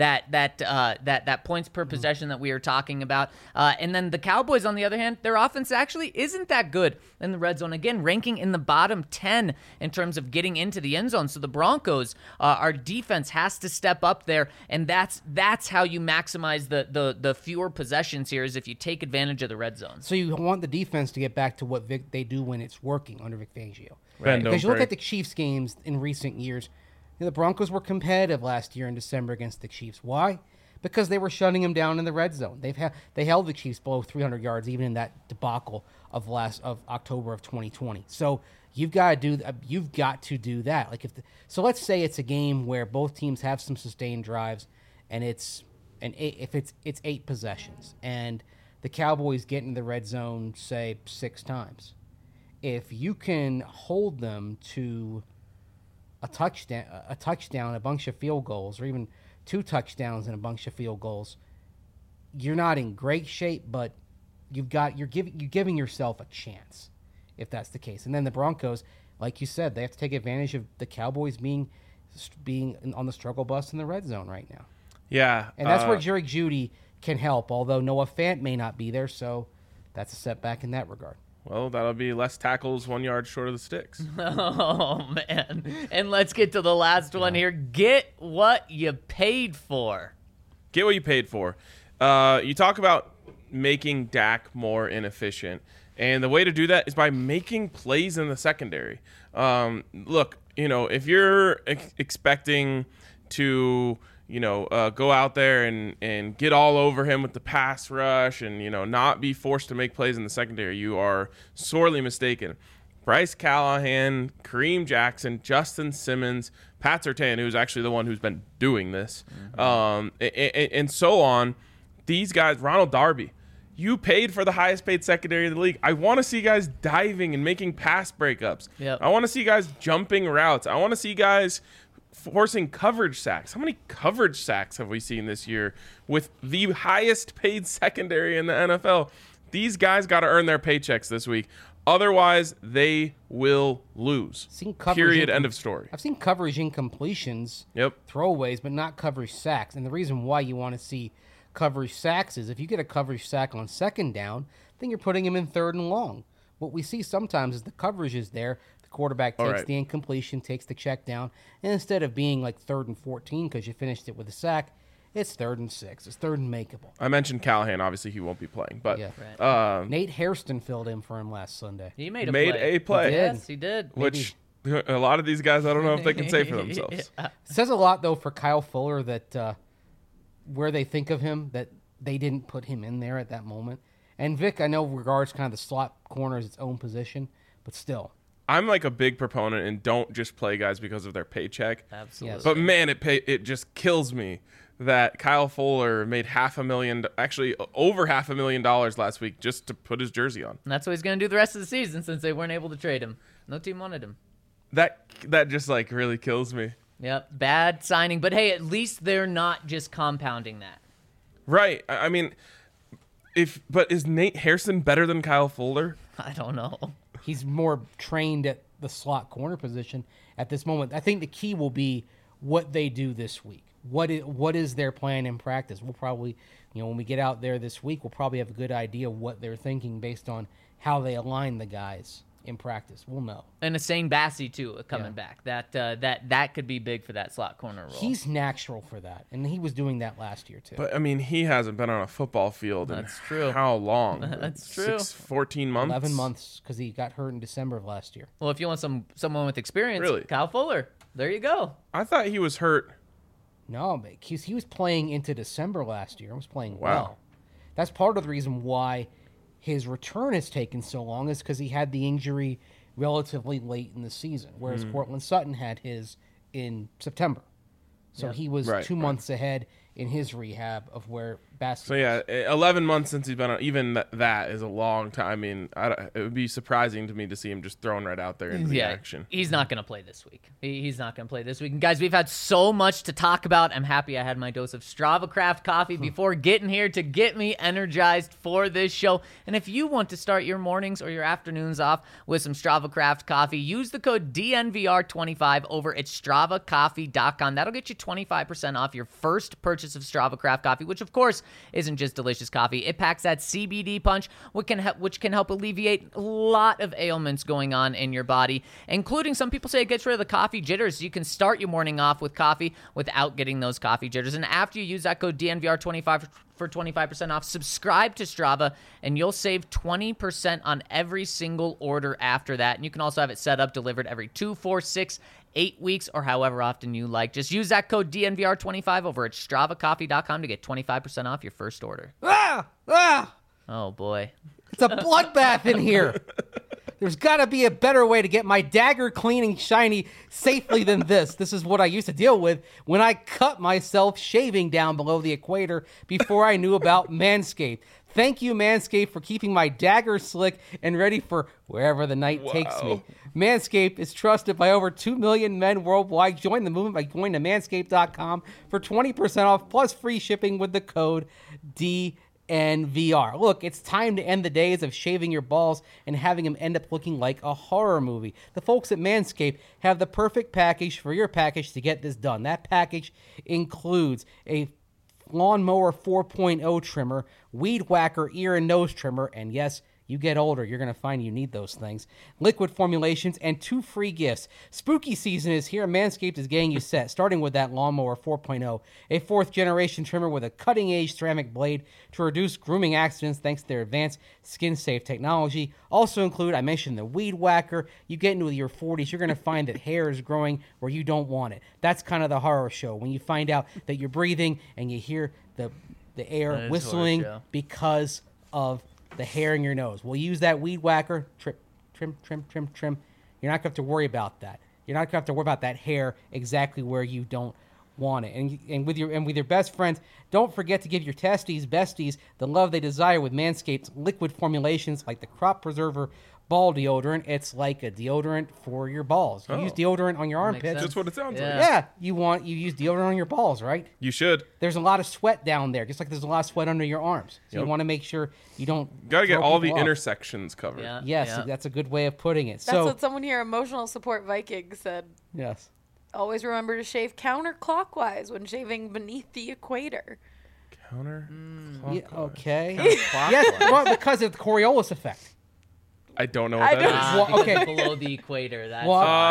that points per possession that we are talking about. And then the Cowboys, on the other hand, their offense actually isn't that good in the red zone. Again, ranking in the bottom 10 in terms of getting into the end zone. So the Broncos, our defense has to step up there, and that's how you maximize the fewer possessions here, is if you take advantage of the red zone. So you want the defense to get back to what they do when it's working under Vic Fangio. Right. Because you look at the Chiefs games in recent years, the Broncos were competitive last year in December against the Chiefs. Why? Because they were shutting them down in the red zone. They held the Chiefs below 300 yards even in that debacle of October of 2020. So you've got to do that. So let's say it's a game where both teams have some sustained drives, and it's 8 possessions, and the Cowboys get in the red zone, say 6 times. If you can hold them to a touchdown, a bunch of field goals, or even 2 touchdowns and a bunch of field goals, you're not in great shape, but you're giving yourself a chance if that's the case. And then the Broncos, like you said, they have to take advantage of the Cowboys being on the struggle bus in the red zone right now. Yeah. And that's where Jerry Jeudy can help, although Noah Fant may not be there, so that's a setback in that regard. Well, that'll be less tackles 1 yard short of the sticks. Oh, man. And let's get to the last one here. Get what you paid for. Get what you paid for. You talk about making Dak more inefficient, and the way to do that is by making plays in the secondary. Look, if you're expecting to go out there and get all over him with the pass rush and, not be forced to make plays in the secondary, you are sorely mistaken. Bryce Callahan, Kareem Jackson, Justin Simmons, Pat Surtain, who's actually the one who's been doing this, and so on. These guys, Ronald Darby, you paid for the highest paid secondary in the league. I want to see guys diving and making pass breakups. Yep. I want to see guys jumping routes. I want to see guys forcing coverage sacks. How many coverage sacks have we seen this year with the highest paid secondary in the NFL? These guys got to earn their paychecks this week. Otherwise, they will lose. Period. End of story. I've seen coverage incompletions, throwaways, but not coverage sacks. And the reason why you want to see coverage sacks is if you get a coverage sack on second down, then you're putting him in third and long. What we see sometimes is the coverage is there. The quarterback takes the incompletion, takes the check down, and instead of being like 3rd and 14 because you finished it with a sack, it's 3rd and 6. It's 3rd and makeable. I mentioned Callahan. Obviously, he won't be playing. But Nate Hairston filled in for him last Sunday. He made a play. Yes, he did. Which a lot of these guys, I don't know if they can say for themselves. It says a lot, though, for Kyle Fuller that where they think of him, that they didn't put him in there at that moment. And Vic, I know regards kind of the slot corner as its own position, but still. I'm like a big proponent and don't just play guys because of their paycheck. Absolutely. But man, it just kills me that Kyle Fuller made over $500,000 last week just to put his jersey on. And that's what he's going to do the rest of the season since they weren't able to trade him. No team wanted him. That just like really kills me. Yep, bad signing. But hey, at least they're not just compounding that. Right. I mean, but is Nate Hairston better than Kyle Fuller? I don't know. He's more trained at the slot corner position at this moment. I think the key will be what they do this week. What is their plan in practice? We'll probably, when we get out there this week, we'll probably have a good idea of what they're thinking based on how they align the guys in practice. We'll know. And Hussein Bassi, too, coming back. That could be big for that slot corner role. He's natural for that, and he was doing that last year, too. But, I mean, he hasn't been on a football field in how long? That's true. 14 months? 11 months, because he got hurt in December of last year. Well, if you want someone with experience, Kyle Fuller. There you go. I thought he was hurt. No, but he was playing into December last year. He was playing well. That's part of the reason why his return has taken so long is because he had the injury relatively late in the season, whereas Courtland Sutton had his in September. So he was 2 months ahead in his rehab of where Bassi was. 11 months since he's been on. Even that is a long time. I mean, it would be surprising to me to see him just thrown right out there into the action. He's not going to play this week. He's not going to play this week. And guys, we've had so much to talk about. I'm happy I had my dose of Strava Craft coffee before getting here to get me energized for this show. And if you want to start your mornings or your afternoons off with some Strava Craft coffee, use the code DNVR25 over at StravaCoffee.com. That'll get you 25% off your first purchase of Strava Craft coffee, which of course isn't just delicious coffee. It packs that CBD punch, which can help alleviate a lot of ailments going on in your body, including some people say it gets rid of the coffee jitters. So you can start your morning off with coffee without getting those coffee jitters. And after you use that code DNVR25 for 25% off, subscribe to Strava, and you'll save 20% on every single order after that. And you can also have it set up, delivered every 2, 4, 6, 8 weeks, or however often you like. Just use that code DNVR25 over at StravaCoffee.com to get 25% off your first order. Oh, boy. It's a bloodbath in here. There's got to be a better way to get my dagger clean and shiny safely than this. This is what I used to deal with when I cut myself shaving down below the equator before I knew about Manscaped. Thank you, Manscaped, for keeping my dagger slick and ready for wherever the night takes me. Manscaped is trusted by over 2 million men worldwide. Join the movement by going to manscaped.com for 20% off plus free shipping with the code DNVR. DNVR. Look, it's time to end the days of shaving your balls and having them end up looking like a horror movie. The folks at Manscaped have the perfect package for your package to get this done. That package includes a Lawnmower 4.0 trimmer, Weed Whacker ear and nose trimmer, and yes, you get older, you're going to find you need those things. Liquid formulations and 2 free gifts. Spooky season is here. Manscaped is getting you set, starting with that Lawnmower 4.0, a 4th-generation trimmer with a cutting-edge ceramic blade to reduce grooming accidents thanks to their advanced skin-safe technology. Also include, I mentioned the Weed Whacker. You get into your 40s, you're going to find that hair is growing where you don't want it. That's kind of the horror show, when you find out that you're breathing and you hear the air whistling because of the hair in your nose. We'll use that Weed Whacker, trim. You're not going to have to worry about that. You're not going to have to worry about that hair exactly where you don't want it. And with your best friends, don't forget to give your besties, the love they desire with Manscaped's liquid formulations like the Crop Preserver ball deodorant. It's like a deodorant for your balls. You use deodorant on your armpits. That's what it sounds like. Yeah, you use deodorant on your balls, right? You should. There's a lot of sweat down there, just like there's a lot of sweat under your arms. So you want to make sure you don't. Got to get all the intersections covered. Yeah. Yes, that's a good way of putting it. That's what someone here, Emotional Support Viking, said. Yes. Always remember to shave counterclockwise when shaving beneath the equator. Counterclockwise. Yeah, okay. Yes, well, because of the Coriolis effect. I don't know what that is. Well, okay. Below the equator. That's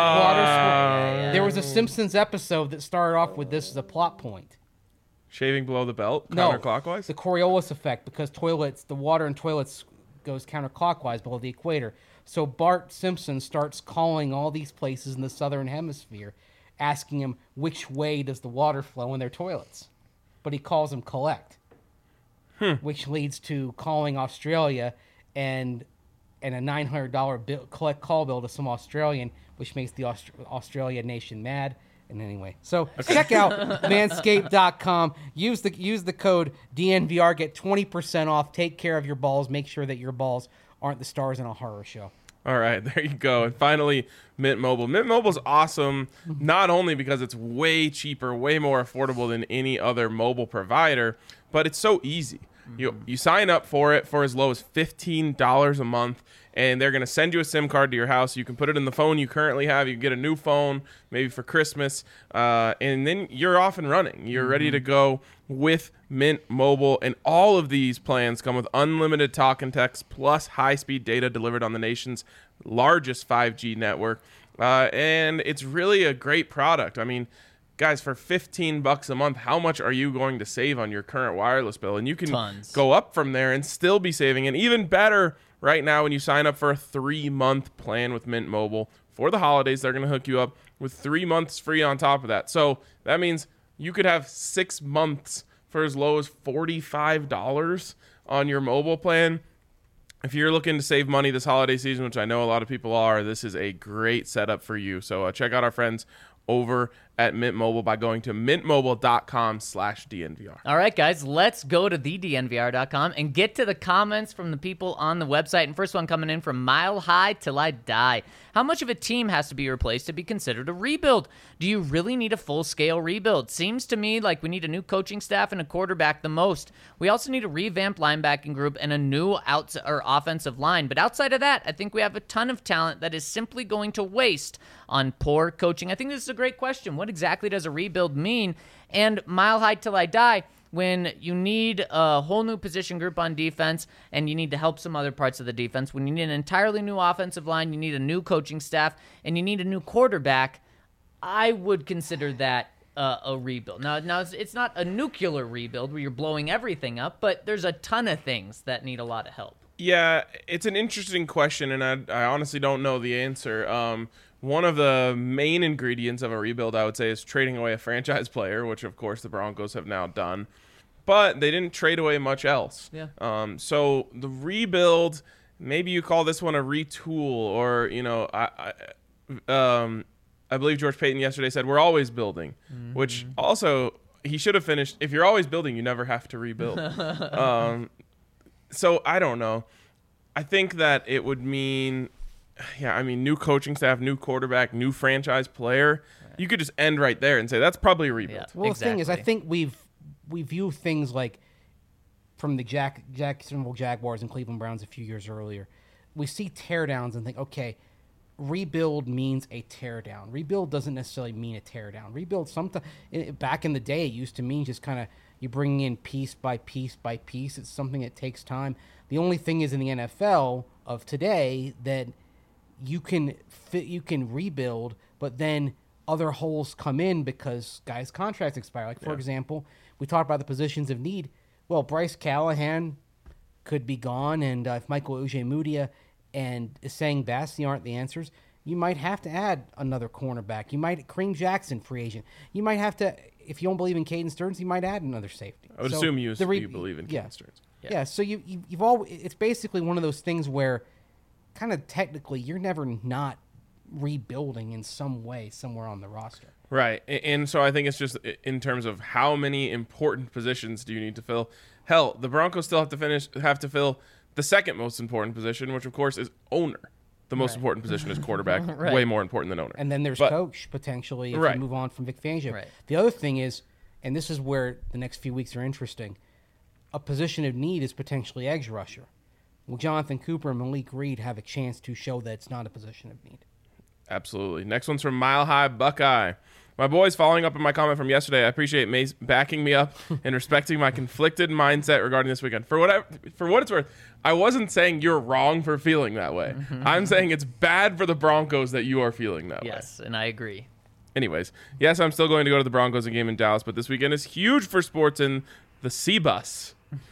There was a Simpsons episode that started off with this as a plot point. Shaving below the belt, No, counterclockwise? the Coriolis effect, because the water in toilets goes counterclockwise below the equator. So Bart Simpson starts calling all these places in the southern hemisphere, asking them which way does the water flow in their toilets. But he calls them collect, which leads to calling Australia and a $900 collect call bill to some Australian, which makes the Australia nation mad. And anyway, so check out manscaped.com. Use the code DNVR. Get 20% off. Take care of your balls. Make sure that your balls aren't the stars in a horror show. All right, there you go. And finally, Mint Mobile. Mint Mobile's awesome, not only because it's way cheaper, way more affordable than any other mobile provider, but it's so easy. You sign up for it for as low as $15 a month, and they're going to send you a SIM card to your house. You can put it in the phone you currently have. You can get a new phone, maybe for Christmas, and then you're off and running. You're ready to go with Mint Mobile, and all of these plans come with unlimited talk and text plus high-speed data delivered on the nation's largest 5G network, and it's really a great product. I mean, guys, for $15 a month, how much are you going to save on your current wireless bill? And you can go up from there and still be saving. And even better, right now, when you sign up for a 3-month plan with Mint Mobile for the holidays, they're going to hook you up with 3 months free on top of that. So that means you could have 6 months for as low as $45 on your mobile plan. If you're looking to save money this holiday season, which I know a lot of people are, this is a great setup for you. So check out our friends over at Mint Mobile by going to mintmobile.com/DNVR. All right, guys, let's go to thednvr.com and get to the comments from the people on the website. And first one coming in from Mile High Till I Die. How much of a team has to be replaced to be considered a rebuild? Do you really need a full-scale rebuild? Seems to me like we need a new coaching staff and a quarterback the most. We also need a revamped linebacking group and a new offensive line. But outside of that, I think we have a ton of talent that is simply going to waste on poor coaching. I think this is a great question. What exactly does a rebuild mean? And Mile High Till I Die, when you need a whole new position group on defense and you need to help some other parts of the defense, when you need an entirely new offensive line, you need a new coaching staff, and you need a new quarterback, I would consider that a rebuild. Now it's not a nuclear rebuild where you're blowing everything up, but there's a ton of things that need a lot of help. Yeah, it's an interesting question, and I honestly don't know the answer. One of the main ingredients of a rebuild, I would say, is trading away a franchise player, which, of course, the Broncos have now done. But they didn't trade away much else. Yeah. So the rebuild, maybe you call this one a retool, or, I believe George Payton yesterday said, we're always building, which also he should have finished. If you're always building, you never have to rebuild. So I don't know. I think that it would mean, new coaching staff, new quarterback, new franchise player. Right. You could just end right there and say that's probably a rebuild. Yeah, well, exactly. The thing is, I think we view things like from the Jacksonville Jaguars and Cleveland Browns a few years earlier. We see teardowns and think, okay, rebuild means a teardown. Rebuild doesn't necessarily mean a teardown. Rebuild, back in the day, it used to mean just kind of you bring in piece by piece by piece. It's something that takes time. The only thing is in the NFL of today that you can rebuild, but then other holes come in because guys' contracts expire. Like, for example, we talked about the positions of need. Well, Bryce Callahan could be gone, and if Michael Ojemudia and Essang Bassey aren't the answers, you might have to add another cornerback. You might Kareem Jackson, free agent. You might have to, if you don't believe in Caden Stearns, you might add another safety. I would assume you believe in Caden Stearns. Yeah. So you've all. It's basically one of those things where, kind of technically, you're never not rebuilding in some way somewhere on the roster. Right. And so I think it's just in terms of how many important positions do you need to fill. Hell, the Broncos still have to fill the second most important position, which of course is owner. The most important position is quarterback, way more important than owner. And then there's coach, potentially, if you move on from Vic Fangio. Right. The other thing is, and this is where the next few weeks are interesting, a position of need is potentially edge rusher. Will Jonathan Cooper and Malik Reed have a chance to show that it's not a position of need? Absolutely. Next one's from Mile High Buckeye. My boys, following up on my comment from yesterday, I appreciate Mace backing me up and respecting my conflicted mindset regarding this weekend. For what it's worth, I wasn't saying you're wrong for feeling that way. I'm saying it's bad for the Broncos that you are feeling that way. Yes, and I agree. Anyways, yes, I'm still going to go to the Broncos game in Dallas, but this weekend is huge for sports in the C-Bus.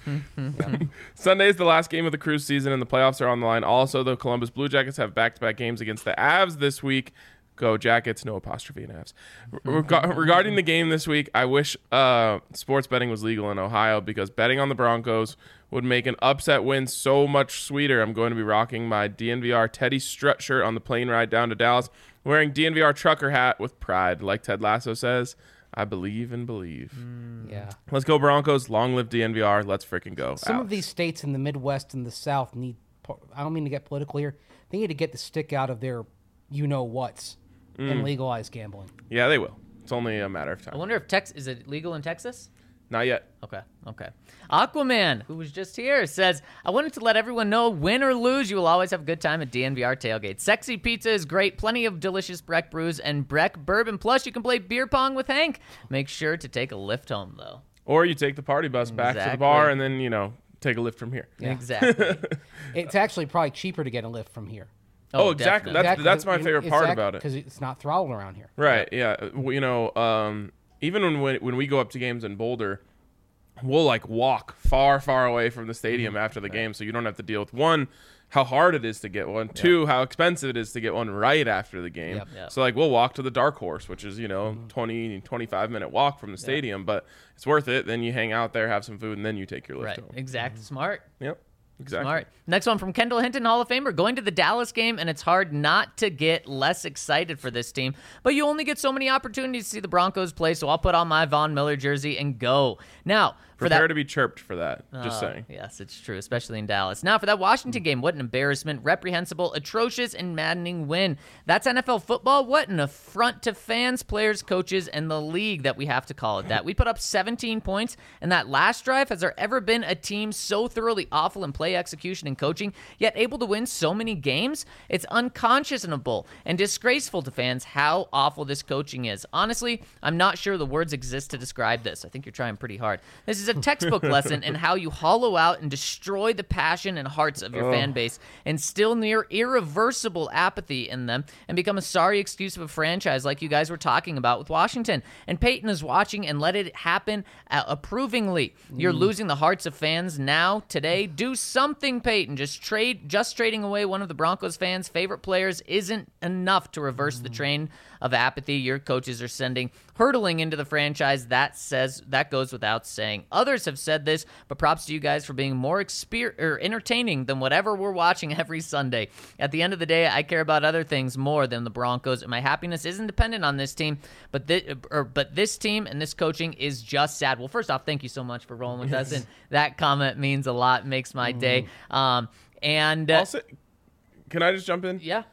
Sunday is the last game of the cruise season, and the playoffs are on the line. Also, the Columbus Blue Jackets have back-to-back games against the Avs this week. Go Jackets, no apostrophe in Avs. Regarding the game this week, I wish sports betting was legal in Ohio because betting on the Broncos would make an upset win so much sweeter. I'm going to be rocking my DNVR Teddy Strut shirt on the plane ride down to Dallas, wearing DNVR trucker hat with pride. Like Ted Lasso says, I believe and believe. Yeah. Let's go Broncos. Long live DNVR. Let's freaking go. Some of these states in the Midwest and the South need, I don't mean to get political here, they need to get the stick out of their you-know-whats and legalize gambling. Yeah, they will. It's only a matter of time. I wonder if is it legal in Texas? Not yet. Okay. Aquaman, who was just here, says, I wanted to let everyone know, win or lose, you will always have a good time at DNVR Tailgate. Sexy pizza is great, plenty of delicious Breck brews and Breck bourbon. Plus, you can play beer pong with Hank. Make sure to take a lift home, though. Or you take the party bus back to the bar and then, take a lift from here. Yeah. Exactly. It's actually probably cheaper to get a lift from here. Oh, exactly. That's my favorite part about it. Because it's not throttled around here. Right, yeah. Even when we go up to games in Boulder, we'll walk far, far away from the stadium after the game, so you don't have to deal with, one, how hard it is to get one, two, how expensive it is to get one right after the game. Yep. So we'll walk to the Dark Horse, which is 20-25-minute walk from the stadium, but it's worth it. Then you hang out there, have some food, and then you take your lift home. Exactly. Smart. Yep. Exactly. Smart. Next one from Kendall Hinton, Hall of Famer. Going to the Dallas game, and it's hard not to get less excited for this team. But you only get so many opportunities to see the Broncos play, so I'll put on my Von Miller jersey and go. Now, prepare to be chirped for that. Just saying. Yes, it's true, especially in Dallas. Now, for that Washington game, what an embarrassment, reprehensible, atrocious, and maddening win. That's NFL football. What an affront to fans, players, coaches, and the league that we have to call it that. We put up 17 points, and that last drive, has there ever been a team so thoroughly awful in play execution and coaching, yet able to win so many games? It's unconscionable and disgraceful to fans how awful this coaching is. Honestly, I'm not sure the words exist to describe this. I think you're trying pretty hard. This is a textbook lesson in how you hollow out and destroy the passion and hearts of your fan base, instill near irreversible apathy in them, and become a sorry excuse of a franchise like you guys were talking about with Washington. And Peyton is watching and let it happen approvingly. You're losing the hearts of fans now, today. Do something, Peyton. Just trading away one of the Broncos fans' favorite players isn't enough to reverse the train of apathy your coaches are sending hurtling into the franchise. That goes without saying. Others have said this, but props to you guys for being more entertaining than whatever we're watching every Sunday. At the end of the day, I care about other things more than the Broncos, and my happiness isn't dependent on this team, but this team and this coaching is just sad. Well, first off, thank you so much for rolling with us, and that comment means a lot, makes my day. And also, can I just jump in? Yeah.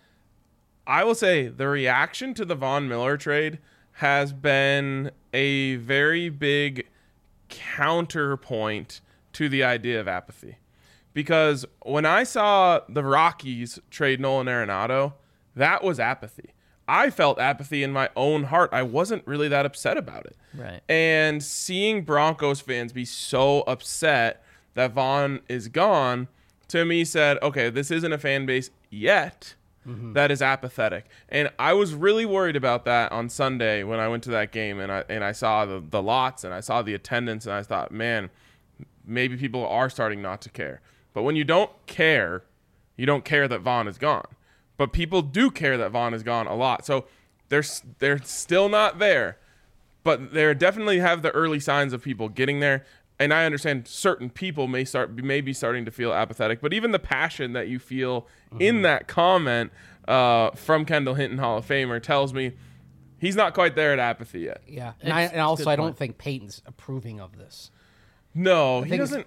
I will say the reaction to the Von Miller trade has been a very big counterpoint to the idea of apathy. Because when I saw the Rockies trade Nolan Arenado, that was apathy. I felt apathy in my own heart. I wasn't really that upset about it. Right. And seeing Broncos fans be so upset that Vaughn is gone, to me said, okay, this isn't a fan base yet that is apathetic. And I was really worried about that on Sunday when I went to that game and I saw the lots and I saw the attendance and I thought, man, maybe people are starting not to care. But when you don't care, you don't care that Vaughn is gone. But people do care that Vaughn is gone a lot. So they're still not there. But they definitely have the early signs of people getting there. And I understand certain people may be starting to feel apathetic. But even the passion that you feel in that comment from Kendall Hinton, Hall of Famer, tells me he's not quite there at apathy yet. Yeah. And I don't think Peyton's approving of this. No, he doesn't.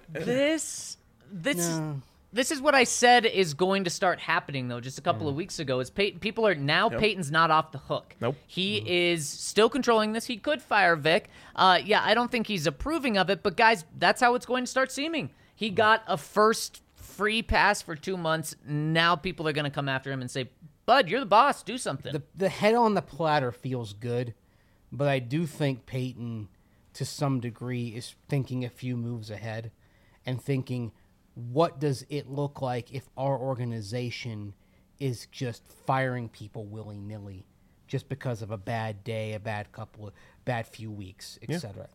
This is what I said is going to start happening, though, just a couple of weeks ago. Is people are now Peyton's not off the hook. Nope. He is still controlling this. He could fire Vic. I don't think he's approving of it, but guys, that's how it's going to start seeming. He got a first free pass for 2 months. Now people are going to come after him and say, Bud, you're the boss. Do something. The head on the platter feels good, but I do think Peyton, to some degree, is thinking a few moves ahead and thinking, what does it look like if our organization is just firing people willy-nilly just because of a bad day, a bad few weeks, etc.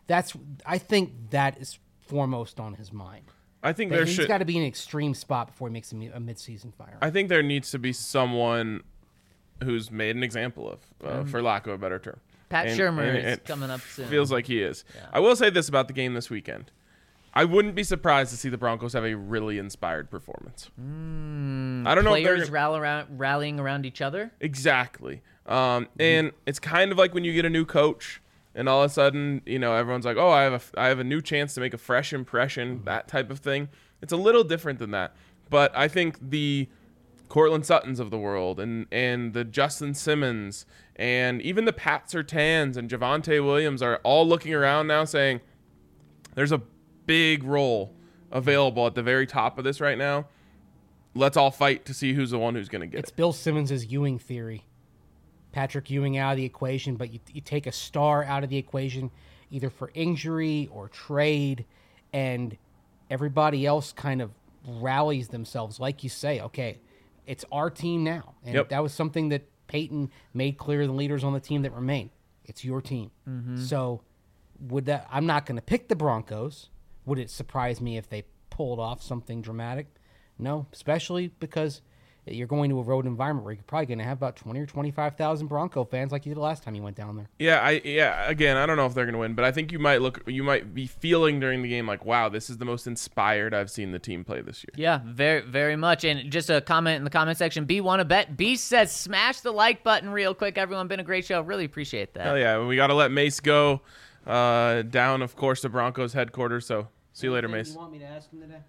I think that is foremost on his mind. I think he's got to be in an extreme spot before he makes a mid-season fire. I think there needs to be someone who's made an example of, for lack of a better term. Pat Shurmur is coming up soon. Feels like he is. Yeah. I will say this about the game this weekend. I wouldn't be surprised to see the Broncos have a really inspired performance. I don't know if players rallying around each other. Exactly. And it's kind of like when you get a new coach and all of a sudden, everyone's like, oh, I have a new chance to make a fresh impression, that type of thing. It's a little different than that. But I think the Cortland Suttons of the world and the Justin Simmons and even the Pat Surtains and Javonte Williams are all looking around now saying there's a big role available at the very top of this right now. Let's all fight to see who's the one who's going to get it. It's Bill Simmons' Ewing theory. Patrick Ewing out of the equation, but you take a star out of the equation either for injury or trade, and everybody else kind of rallies themselves. Like you say, okay, it's our team now. And that was something that Peyton made clear to the leaders on the team that remain. It's your team. So I'm not going to pick the Broncos. Would it surprise me if they pulled off something dramatic? No, especially because you're going to a road environment where you're probably going to have about 20 or 25,000 Bronco fans like you did the last time you went down there. Again, I don't know if they're going to win, but I think you might be feeling during the game like, wow, this is the most inspired I've seen the team play this year. Yeah, very, very much. And just a comment in the comment section, B want to bet. B says, smash the like button real quick. Everyone, been a great show. Really appreciate that. Hell yeah, we got to let Mace go down, of course, to Broncos headquarters. So see you later, Mace. You want me to ask him today?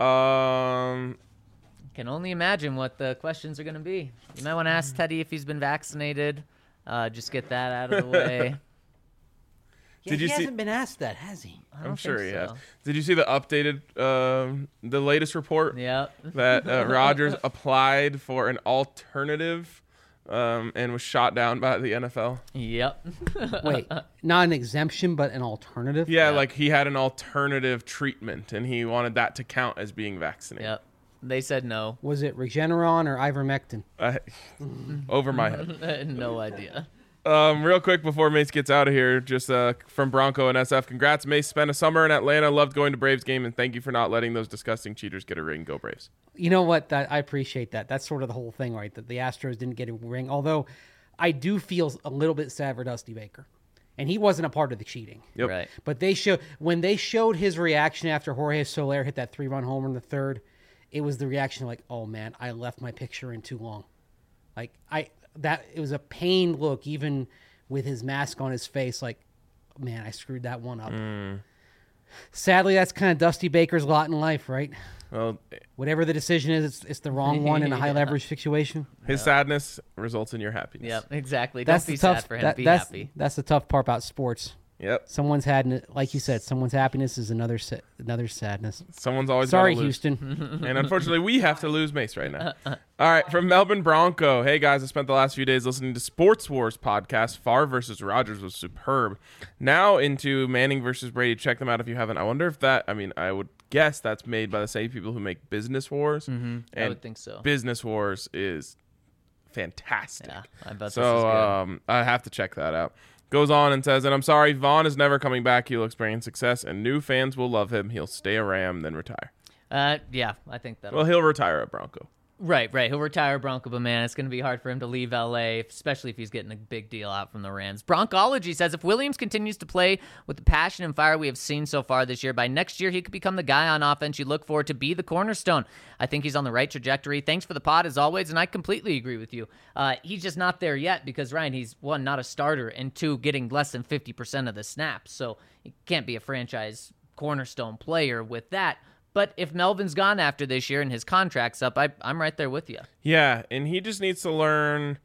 Can only imagine what the questions are going to be. You might want to ask Teddy if he's been vaccinated. Just get that out of the way. He hasn't been asked that, has he? I'm sure he has. Did you see the updated, the latest report? Yep. That Rodgers applied for an alternative and was shot down by the NFL? Yep. Wait, not an exemption, but an alternative? Yeah, like he had an alternative treatment, and he wanted that to count as being vaccinated. Yep. They said no. Was it Regeneron or ivermectin? Over my head. No idea. Real quick before Mace gets out of here, just from Bronco and SF, congrats, Mace. Spent a summer in Atlanta, loved going to Braves game, and thank you for not letting those disgusting cheaters get a ring. Go Braves. You know what? I appreciate that. That's sort of the whole thing, right? That the Astros didn't get a ring, although I do feel a little bit sad for Dusty Baker. And he wasn't a part of the cheating. Yep. Right. But when they showed his reaction after Jorge Soler hit that 3-run homer in the third, it was the reaction like, oh man, I left my picture in too long. Like it was a pained look, even with his mask on his face, like, man, I screwed that one up. Sadly, that's kind of Dusty Baker's lot in life, right? Well, whatever the decision is, it's the wrong one in a high leverage situation. His sadness results in your happiness. Yep, exactly. Don't be sad for him. Be happy. That's the tough part about sports. Yep. Someone's had, like you said, someone's happiness is another sadness. Someone's always sorry, gotta lose. Houston. And unfortunately, we have to lose Mace right now. All right, from Melbourne Bronco. Hey guys, I spent the last few days listening to Sports Wars podcast. Favre versus Rodgers was superb. Now into Manning versus Brady. Check them out if you haven't. I wonder if that. I mean, I would guess that's made by the same people who make Business Wars. Mm-hmm. I would think so. Business Wars is fantastic. Yeah, I bet so, this is good. I have to check that out. Goes on and says, and I'm sorry, Vaughn is never coming back. He will experience success, and new fans will love him. He'll stay a Ram, then retire. Yeah, I think that. Well, he'll retire a Bronco. Right. He'll retire Bronco, but man, it's going to be hard for him to leave LA, especially if he's getting a big deal out from the Rams. Broncology says if Williams continues to play with the passion and fire we have seen so far this year, by next year he could become the guy on offense you look for to be the cornerstone. I think he's on the right trajectory. Thanks for the pod as always, and I completely agree with you. He's just not there yet because, Ryan, he's, one, not a starter, and two, getting less than 50% of the snaps, so he can't be a franchise cornerstone player with that. But if Melvin's gone after this year and his contract's up, I'm right there with you. Yeah, and he just needs to learn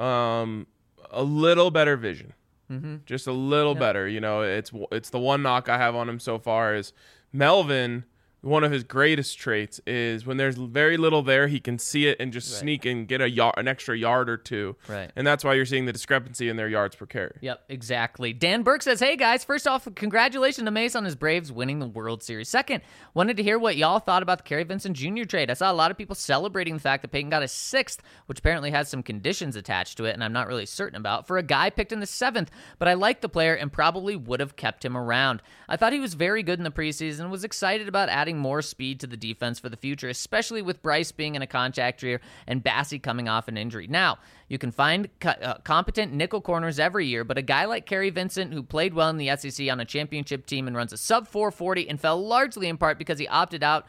a little better vision. Mm-hmm. Just a little better. You know, it's the one knock I have on him so far is Melvin. One of his greatest traits is when there's very little there, he can see it and just sneak and get an extra yard or two. Right. And that's why you're seeing the discrepancy in their yards per carry. Yep, exactly. Dan Burke says, hey, guys, first off, congratulations to Mace on his Braves winning the World Series. Second, wanted to hear what y'all thought about the Kerry Vincent Jr. trade. I saw a lot of people celebrating the fact that Peyton got a 6th, which apparently has some conditions attached to it, and I'm not really certain about, for a guy picked in the 7th, but I like the player and probably would have kept him around. I thought he was very good in the preseason and was excited about adding more speed to the defense for the future, especially with Bryce being in a contact year and Bassey coming off an injury. Now, you can find competent nickel corners every year, but a guy like Kerry Vincent, who played well in the SEC on a championship team and runs a sub 440 and fell largely in part because he opted out,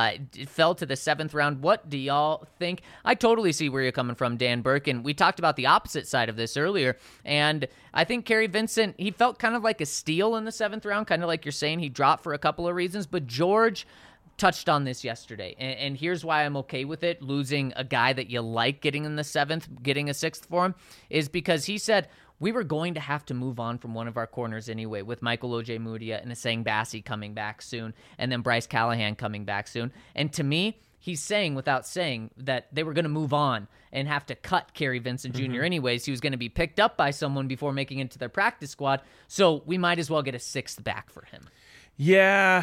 fell to the 7th round. What do y'all think? I totally see where you're coming from, Dan Burke, and we talked about the opposite side of this earlier, and I think Kerry Vincent, he felt kind of like a steal in the 7th round, kind of like you're saying. He dropped for a couple of reasons, but George touched on this yesterday, and here's why I'm okay with it, losing a guy that you like getting in the 7th, getting a 6th for him, is because he said, we were going to have to move on from one of our corners anyway, with Michael Ojemudia and Essang Bassey coming back soon, and then Bryce Callahan coming back soon. And to me, he's saying without saying that they were going to move on and have to cut Kerry Vincent Jr. anyways. He was going to be picked up by someone before making it into their practice squad, so we might as well get a 6th back for him. Yeah.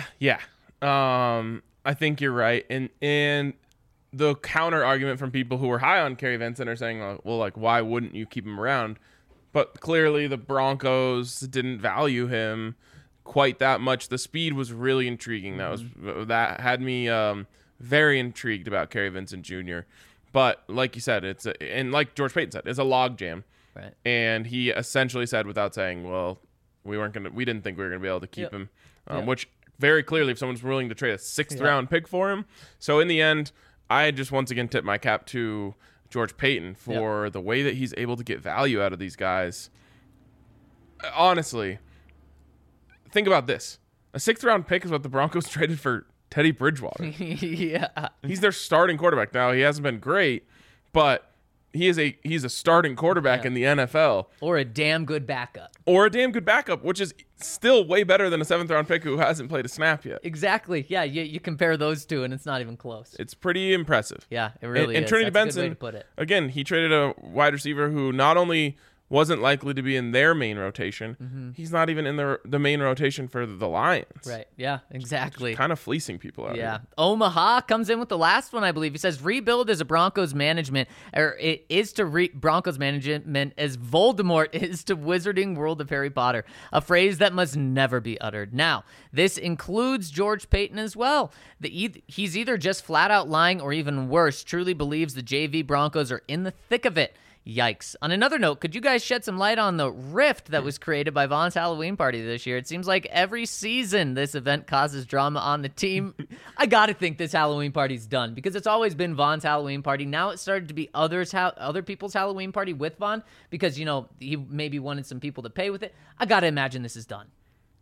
I think you're right. And the counter argument from people who were high on Kerry Vincent are saying, well, like, why wouldn't you keep him around? But clearly the Broncos didn't value him quite that much. The speed was really intriguing. That had me very intrigued about Kerry Vincent Jr. But like you said, and like George Payton said, it's a logjam. Right. And he essentially said, without saying, well, we didn't think we were gonna be able to keep him, which very clearly, if someone's willing to trade a 6th round pick for him. So in the end, I just once again tip my cap to George Payton for the way that he's able to get value out of these guys. Honestly, think about this. A 6th round pick is what the Broncos traded for Teddy Bridgewater. Yeah. He's their starting quarterback. Now, he hasn't been great, but he's a starting quarterback in the NFL. Or a damn good backup. Which is still way better than a 7th round pick who hasn't played a snap yet. Exactly. Yeah, you compare those two, and it's not even close. It's pretty impressive. Yeah, it really is. And Trinity That's Benson, a good way to put it. Again, he traded a wide receiver who not only wasn't likely to be in their main rotation, he's not even in the main rotation for the Lions. Right. Yeah, exactly. Just kind of fleecing people out here. Omaha comes in with the last one, I believe. He says, rebuild as a Broncos management, or it is to Broncos management as Voldemort is to Wizarding World of Harry Potter, a phrase that must never be uttered. Now, this includes George Payton as well. He's either just flat out lying or even worse, truly believes the JV Broncos are in the thick of it. Yikes. On another note, could you guys shed some light on the rift that was created by Vaughn's Halloween party this year? It seems like every season this event causes drama on the team. I gotta think this Halloween party's done because it's always been Vaughn's Halloween party. Now it started to be other people's Halloween party with Vaughn because, he maybe wanted some people to pay with it. I gotta imagine this is done.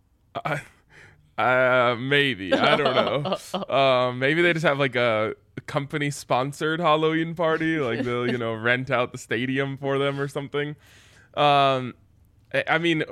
Maybe. I don't know. Maybe they just have like a company sponsored Halloween party, like they'll rent out the stadium for them or something. I mean,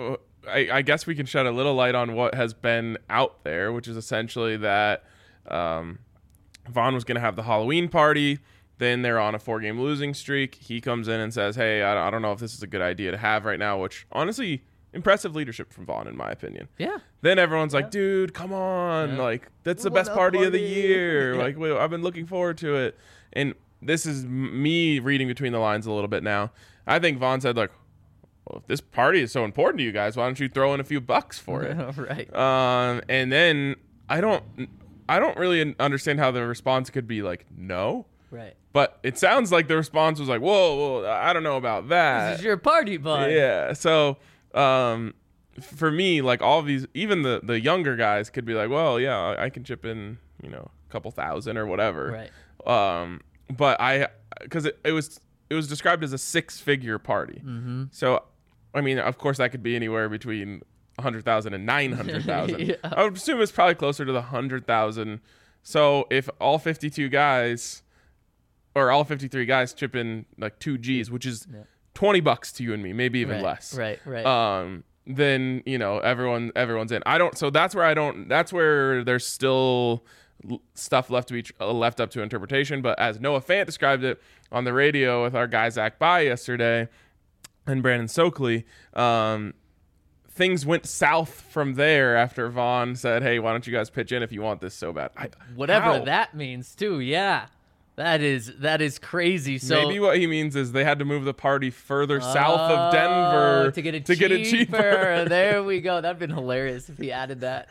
I guess we can shed a little light on what has been out there, which is essentially that Vaughn was going to have the Halloween party. Then they're on a 4-game losing streak. He comes in and says, hey, I don't know if this is a good idea to have right now, which honestly, impressive leadership from Vaughn, in my opinion. Yeah. Then everyone's like, dude, come on. Like, that's the best party of the year. Like, I've been looking forward to it. And this is me reading between the lines a little bit now. I think Vaughn said, like, well, if this party is so important to you guys, why don't you throw in a few bucks for it? Right. And then I don't really understand how the response could be like, no. Right. But it sounds like the response was like, whoa, I don't know about that. This is your party, bud. Yeah. So for me, like all of these, even the younger guys could be like, well, yeah, I can chip in, a couple thousand or whatever. Right. But because it was described as a 6-figure party. Mm-hmm. So, I mean, of course, that could be anywhere between 100,000 and 900,000. Yeah. I would assume it's probably closer to the 100,000. So if all 52 guys or all 53 guys chip in like 2 G's, which is $20 to you and me, maybe even less. Right. Then, everyone's in. That's where there's still stuff left up to interpretation. But as Noah Fant described it on the radio with our guy Zach Bye yesterday and Brandon Stokely, things went south from there after Vaughn said, hey, why don't you guys pitch in if you want this so bad? Whatever that means too. Yeah. That is crazy. So maybe what he means is they had to move the party further south of Denver to get it cheaper. There we go. That'd been hilarious if he added that.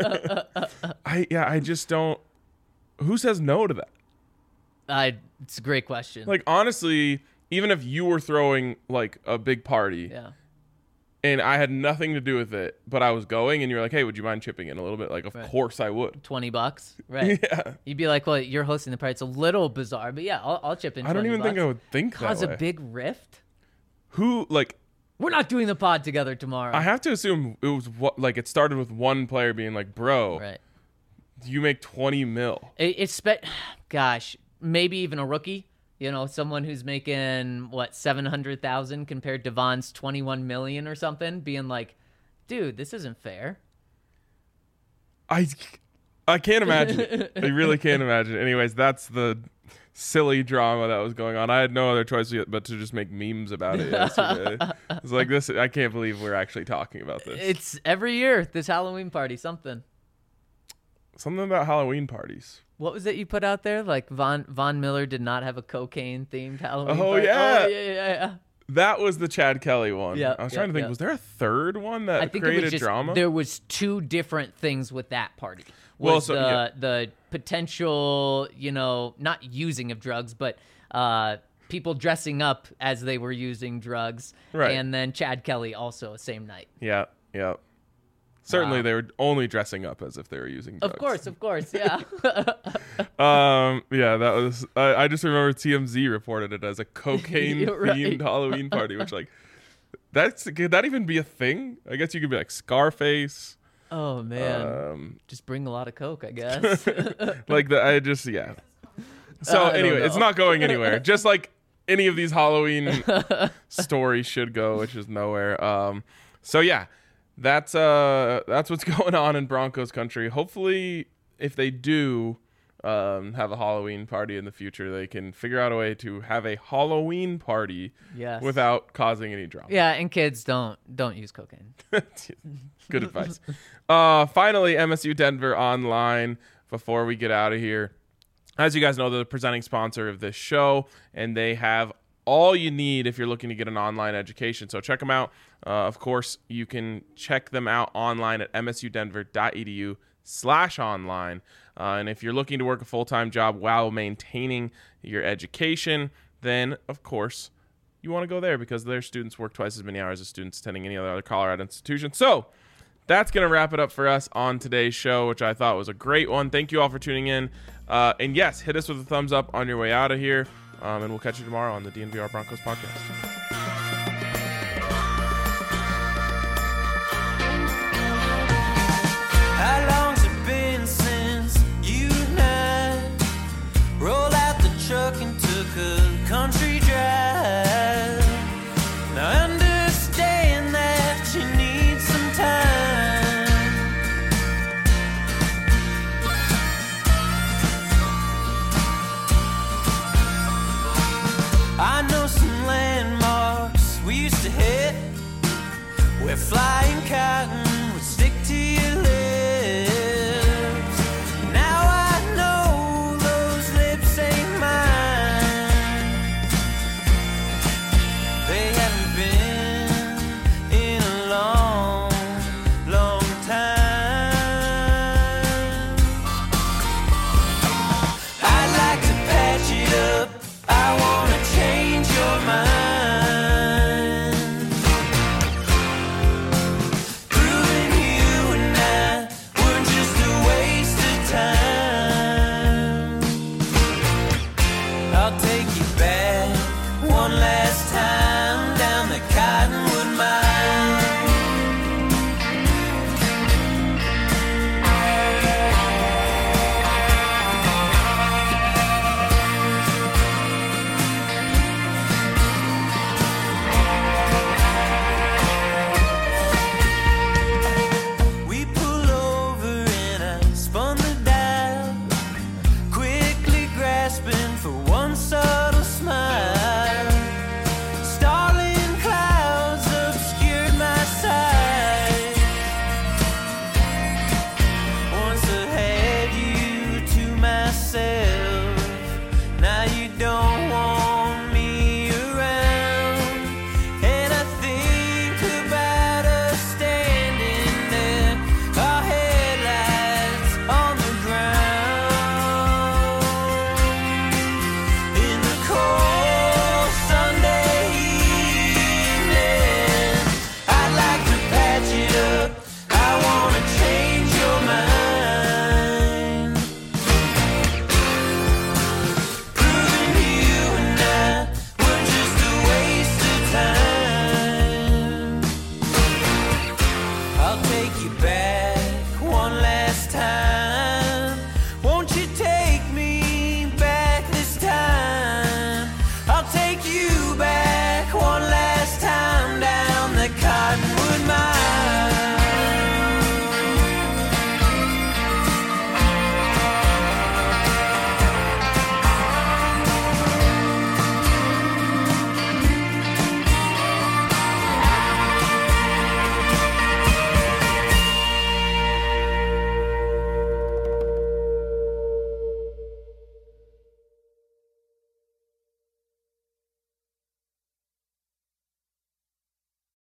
I just don't. Who says no to that? It's a great question. Like honestly, even if you were throwing like a big party, and I had nothing to do with it, but I was going, and you're like, hey, would you mind chipping in a little bit? Like, of course I would. $20, right? Yeah. You'd be like, well, you're hosting the party. It's a little bizarre, but yeah, I'll chip in. I don't even think I would think that way. Cause a big rift. Who like? We're not doing the pod together tomorrow. I have to assume it was it started with one player being like, bro, you make $20 million. Gosh, maybe even a rookie. Someone who's making $700,000 compared to Vaughn's $21 million or something, being like, dude, this isn't fair. I can't imagine it. I really can't imagine it. Anyways, that's the silly drama that was going on. I had no other choice but to just make memes about it yesterday. It's like this. I can't believe we're actually talking about this. It's every year, this Halloween party, something about Halloween parties. What was it you put out there? Like Von Miller did not have a cocaine-themed Halloween party? Oh, yeah. That was the Chad Kelly one. Yeah, I was trying to think, was there a third one that created drama? There was 2 different things with that party. The potential, not using of drugs, but people dressing up as they were using drugs. Right. And then Chad Kelly also same night. Yeah. Certainly, they were only dressing up as if they were using drugs. Of course, yeah. Yeah, that was. I just remember TMZ reported it as a cocaine-themed Halloween party, which could that even be a thing? I guess you could be like Scarface. Oh man, just bring a lot of coke, I guess. So anyway, it's not going anywhere. Just like any of these Halloween stories should go, which is nowhere. So yeah. That's what's going on in Broncos country. Hopefully, if they do have a Halloween party in the future, they can figure out a way to have a Halloween party without causing any drama. Yeah, and kids don't use cocaine. Good advice. Finally, MSU Denver Online. Before we get out of here, as you guys know, they're the presenting sponsor of this show, and they have all you need if you're looking to get an online education. So check them out. Of course, you can check them out online at msudenver.edu/online. And if you're looking to work a full-time job while maintaining your education, then, of course, you want to go there because their students work twice as many hours as students attending any other Colorado institution. So that's going to wrap it up for us on today's show, which I thought was a great one. Thank you all for tuning in. And yes, hit us with a thumbs up on your way out of here. And we'll catch you tomorrow on the DNVR Broncos podcast. How long's it been since you and I rolled out the truck and took a country drive? Now I understand that you need some flying cotton